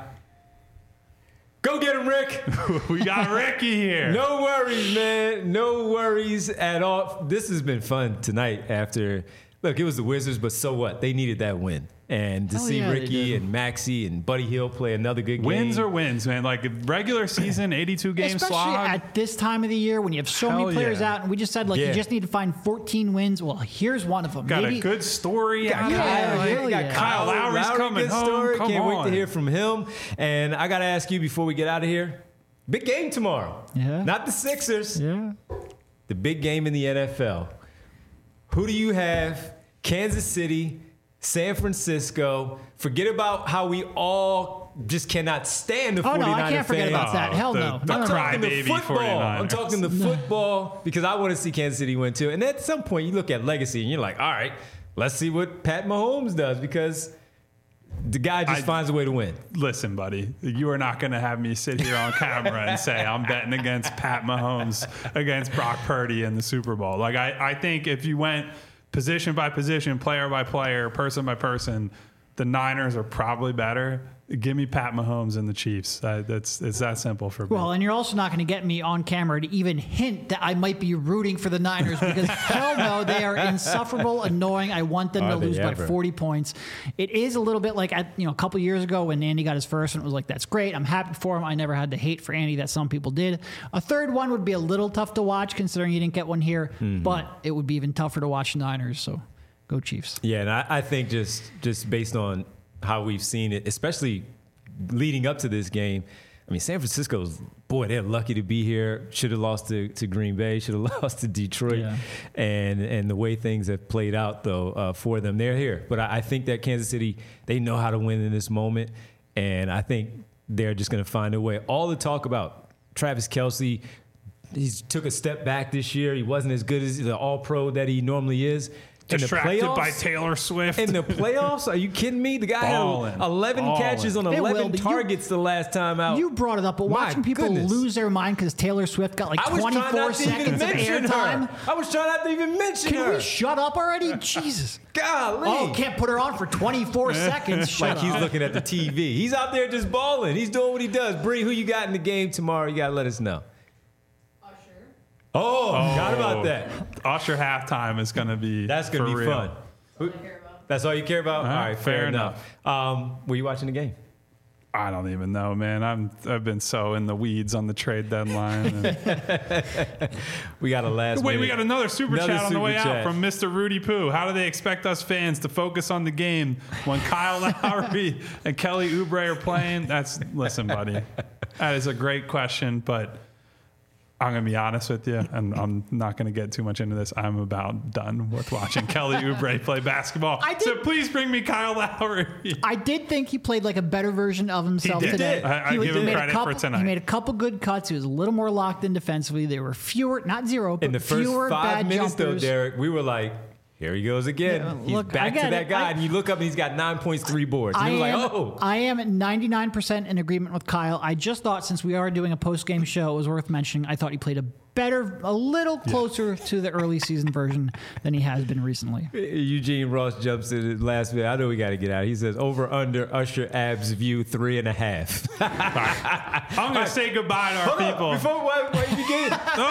Speaker 1: Go get him, Rick.
Speaker 2: We got Ricky here.
Speaker 1: No worries, man. No worries at all. This has been fun tonight after. Look, it was the Wizards, but so what? They needed that win. And to
Speaker 3: Hell
Speaker 1: see
Speaker 3: yeah, they
Speaker 1: Ricky
Speaker 3: did.
Speaker 1: and Maxey and Buddy Hield play another good game.
Speaker 2: Wins are wins, man. Like regular season, 82 game
Speaker 3: Especially
Speaker 2: slog.
Speaker 3: at this time of the year when you have so
Speaker 2: Hell
Speaker 3: many players
Speaker 2: yeah.
Speaker 3: out, and we just said like
Speaker 1: Yeah.
Speaker 3: you just need to find 14 wins. Well, here's one of them.
Speaker 2: Got
Speaker 3: Maybe
Speaker 2: a good story.
Speaker 1: Got
Speaker 2: out of
Speaker 3: Yeah,
Speaker 2: it.
Speaker 3: hell
Speaker 1: we got
Speaker 3: yeah.
Speaker 2: Kyle Lowry's coming
Speaker 1: good
Speaker 2: home.
Speaker 1: story.
Speaker 2: Come
Speaker 1: Can't wait
Speaker 2: on.
Speaker 1: to hear from him. And I got to ask you before we get out of here. Big game tomorrow.
Speaker 3: Yeah.
Speaker 1: Not the Sixers.
Speaker 3: Yeah.
Speaker 1: The big game in the NFL. Who do you have? Kansas City, San Francisco. Forget about how we all just cannot stand the 49er
Speaker 3: Oh, no, I can't forget
Speaker 1: fans.
Speaker 3: about that. Hell
Speaker 2: the-
Speaker 3: no.
Speaker 2: the
Speaker 3: No, no, no.
Speaker 2: cry-
Speaker 1: I'm talking the
Speaker 2: Crybaby
Speaker 1: football.
Speaker 2: 49ers.
Speaker 1: I'm talking the football because I want to see Kansas City win too. And at some point, you look at legacy and you're like, all right, let's see what Pat Mahomes does because the guy just finds a way to win.
Speaker 2: Listen, buddy, you are not going to have me sit here on camera and say I'm betting against Pat Mahomes against Brock Purdy in the Super Bowl. Like I think if you went position by position, player by player, person by person, the Niners are probably better. Give me Pat Mahomes and the Chiefs. It's that simple for me.
Speaker 3: Well, and you're also not going to get me on camera to even hint that I might be rooting for the Niners because hell no, they are insufferable, annoying. I want them to
Speaker 1: Are they
Speaker 3: lose by
Speaker 1: ever?
Speaker 3: 40 points. It is a little bit like a couple years ago when Andy got his first and it was like, that's great. I'm happy for him. I never had the hate for Andy that some people did. A third one would be a little tough to watch considering you didn't get one here, but it would be even tougher to watch the Niners. So go Chiefs.
Speaker 1: Yeah, and I think just based on how we've seen it, especially leading up to this game, I mean, San Francisco's, boy, they're lucky to be here. Should have lost to Green Bay. Should have lost to Detroit.
Speaker 3: Yeah.
Speaker 1: And the way things have played out, though, for them, they're here. But I think that Kansas City, they know how to win in this moment. And I think they're just going to find a way. All the talk about Travis Kelce, he took a step back this year. He wasn't as good as the all-pro that he normally is.
Speaker 2: Distracted by Taylor Swift.
Speaker 1: In the playoffs? Are you kidding me? The guy had 11 catches on 11 targets the last time out.
Speaker 3: You brought it up, but watching people lose their mind because Taylor Swift got like 24 seconds of airtime.
Speaker 1: I was trying not to even mention her.
Speaker 3: Can we shut up already? Jesus.
Speaker 1: Golly.
Speaker 3: Oh, can't put her on for 24 seconds. Shut
Speaker 1: like
Speaker 3: up.
Speaker 1: He's looking at the TV. He's out there just balling. He's doing what he does. Bree, who you got in the game tomorrow? You got to let us know. Oh, forgot about that.
Speaker 2: Usher halftime is going to be
Speaker 1: That's going to be
Speaker 2: real.
Speaker 1: fun. That's all you care about? All right, fair enough. Were you watching the game?
Speaker 2: I don't even know, man. I've been so in the weeds on the trade deadline.
Speaker 1: We got a last
Speaker 2: Wait,
Speaker 1: minute.
Speaker 2: we got another super chat on the way out from Mr. Rudy Poo. How do they expect us fans to focus on the game when Kyle Lowry and Kelly Oubre are playing? Listen, buddy, that is a great question, but I'm going to be honest with you, and I'm not going to get too much into this. I'm about done with watching Kelly Oubre play basketball. So please bring me Kyle Lowry.
Speaker 3: I did think he played like a better version of himself
Speaker 2: He did.
Speaker 3: today.
Speaker 2: I give him credit for tonight.
Speaker 3: He made a couple good cuts. He was a little more locked in defensively. There were fewer, not zero, but
Speaker 1: in the first
Speaker 3: fewer
Speaker 1: 5
Speaker 3: bad
Speaker 1: minutes,
Speaker 3: jumpers.
Speaker 1: though, Derek, we were like, here he goes again.
Speaker 3: Yeah,
Speaker 1: he's
Speaker 3: look,
Speaker 1: back to
Speaker 3: I get
Speaker 1: that
Speaker 3: it.
Speaker 1: guy, and you look up and he's got 9 points, 3 boards. And you're like, oh.
Speaker 3: I am at 99% in agreement with Kyle. I just thought since we are doing a post-game show, it was worth mentioning. I thought he played a little closer to the early season version than he has been recently.
Speaker 1: Eugene Ross jumps in the last minute. I know we got to get out. He says, over under Usher abs view 3.5.
Speaker 2: I'm going to say goodbye to our people.
Speaker 1: Before you begin.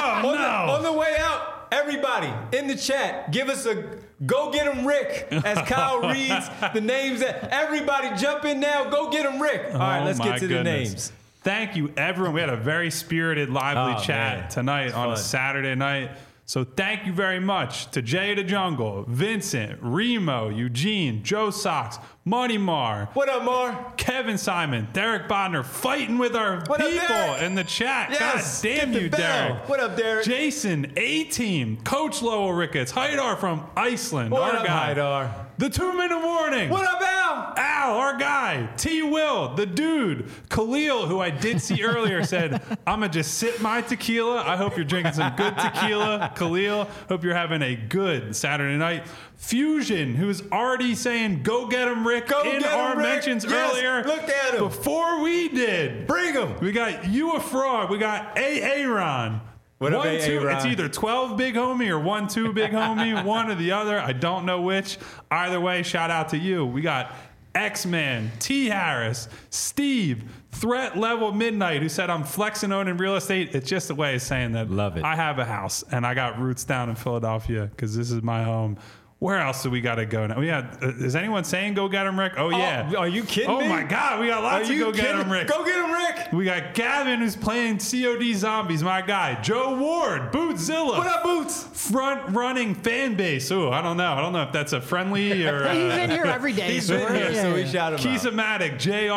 Speaker 1: On the way out, everybody in the chat, give us a go get him Rick as Kyle reads the names. Everybody jump in now. Go get him Rick. All right, let's get to the names.
Speaker 2: Thank you, everyone. We had a very spirited, lively chat tonight on a Saturday night. So thank you very much to Jay the Jungle, Vincent, Remo, Eugene, Joe Sox, Money Mar.
Speaker 1: What up, Mar?
Speaker 2: Kevin Simon, Derek Bodner, fighting with our people in the chat.
Speaker 1: Yes,
Speaker 2: God damn you, Derek.
Speaker 1: What up, Derek?
Speaker 2: Jason, A-Team, Coach Lowell Ricketts, Haidar from Iceland.
Speaker 1: What
Speaker 2: our
Speaker 1: up,
Speaker 2: guy.
Speaker 1: Haidar?
Speaker 2: The 2-minute warning.
Speaker 1: What up, Al?
Speaker 2: Al, our guy. T. Will, the dude. Khalil, who I did see earlier, said, I'm going to just sip my tequila. I hope you're drinking some good tequila. Khalil, hope you're having a good Saturday night. Fusion, who's already saying, go get him, Rick, in our mentions earlier.
Speaker 1: Look at him.
Speaker 2: Before we did.
Speaker 1: Bring him.
Speaker 2: We got You a Fraud. We got Aaron.
Speaker 1: What up,
Speaker 2: It's either 12 big homie or 1-2 big homie, one or the other. I don't know which. Either way, shout out to you. We got X-Man, T. Harris, Steve, Threat Level Midnight, who said I'm flexing owning real estate. It's just a way of saying that
Speaker 1: Love it.
Speaker 2: I have a house and I got roots down in Philadelphia because this is my home. Where else do we got to go now? Is anyone saying go get him, Rick? Oh, yeah.
Speaker 1: Are you kidding me?
Speaker 2: Oh, my God. We got lots of go get him, Rick.
Speaker 1: Go get him, Rick.
Speaker 2: We got Gavin, who's playing COD Zombies, my guy. Joe Ward, Bootzilla.
Speaker 1: What up, Boots?
Speaker 2: Front-running fan base. Ooh, I don't know. I don't know if that's a friendly or...
Speaker 3: He's in here every day.
Speaker 1: He's been here, so we shout him out.
Speaker 2: Keys-O-Matic,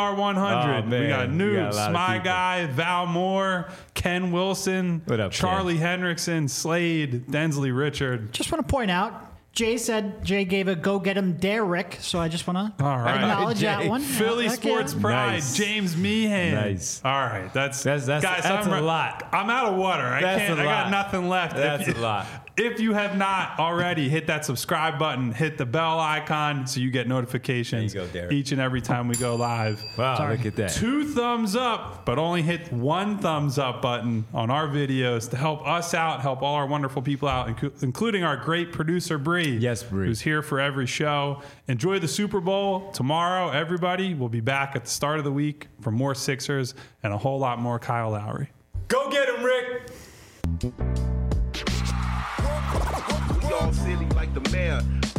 Speaker 2: JR100.
Speaker 1: Oh,
Speaker 2: we got Noobs, My
Speaker 1: people.
Speaker 2: Guy, Val Moore, Ken Wilson,
Speaker 1: What up,
Speaker 2: Charlie Hendrickson, Slade, Densley Richard.
Speaker 3: Just want to point out, Jay gave a go get him Derek, so I just want to acknowledge that one.
Speaker 2: Philly Sports Pride,
Speaker 1: Nice.
Speaker 2: James Meehan.
Speaker 1: Nice.
Speaker 2: All right, that's guys.
Speaker 1: That's a lot.
Speaker 2: I'm out of water. I got nothing left.
Speaker 1: That's a lot.
Speaker 2: If you have not already, hit that subscribe button, hit the bell icon so you get notifications
Speaker 1: There you go, Derek.
Speaker 2: each and every time we go live.
Speaker 1: Wow, look at that.
Speaker 2: 2 thumbs up, but only hit 1 thumbs up button on our videos to help us out, help all our wonderful people out, including our great producer, Bree.
Speaker 1: Yes, Bree.
Speaker 2: Who's here for every show. Enjoy the Super Bowl tomorrow, everybody. We'll be back at the start of the week for more Sixers and a whole lot more Kyle Lowry.
Speaker 1: Go get him, Rick.
Speaker 4: We all silly like the mayor.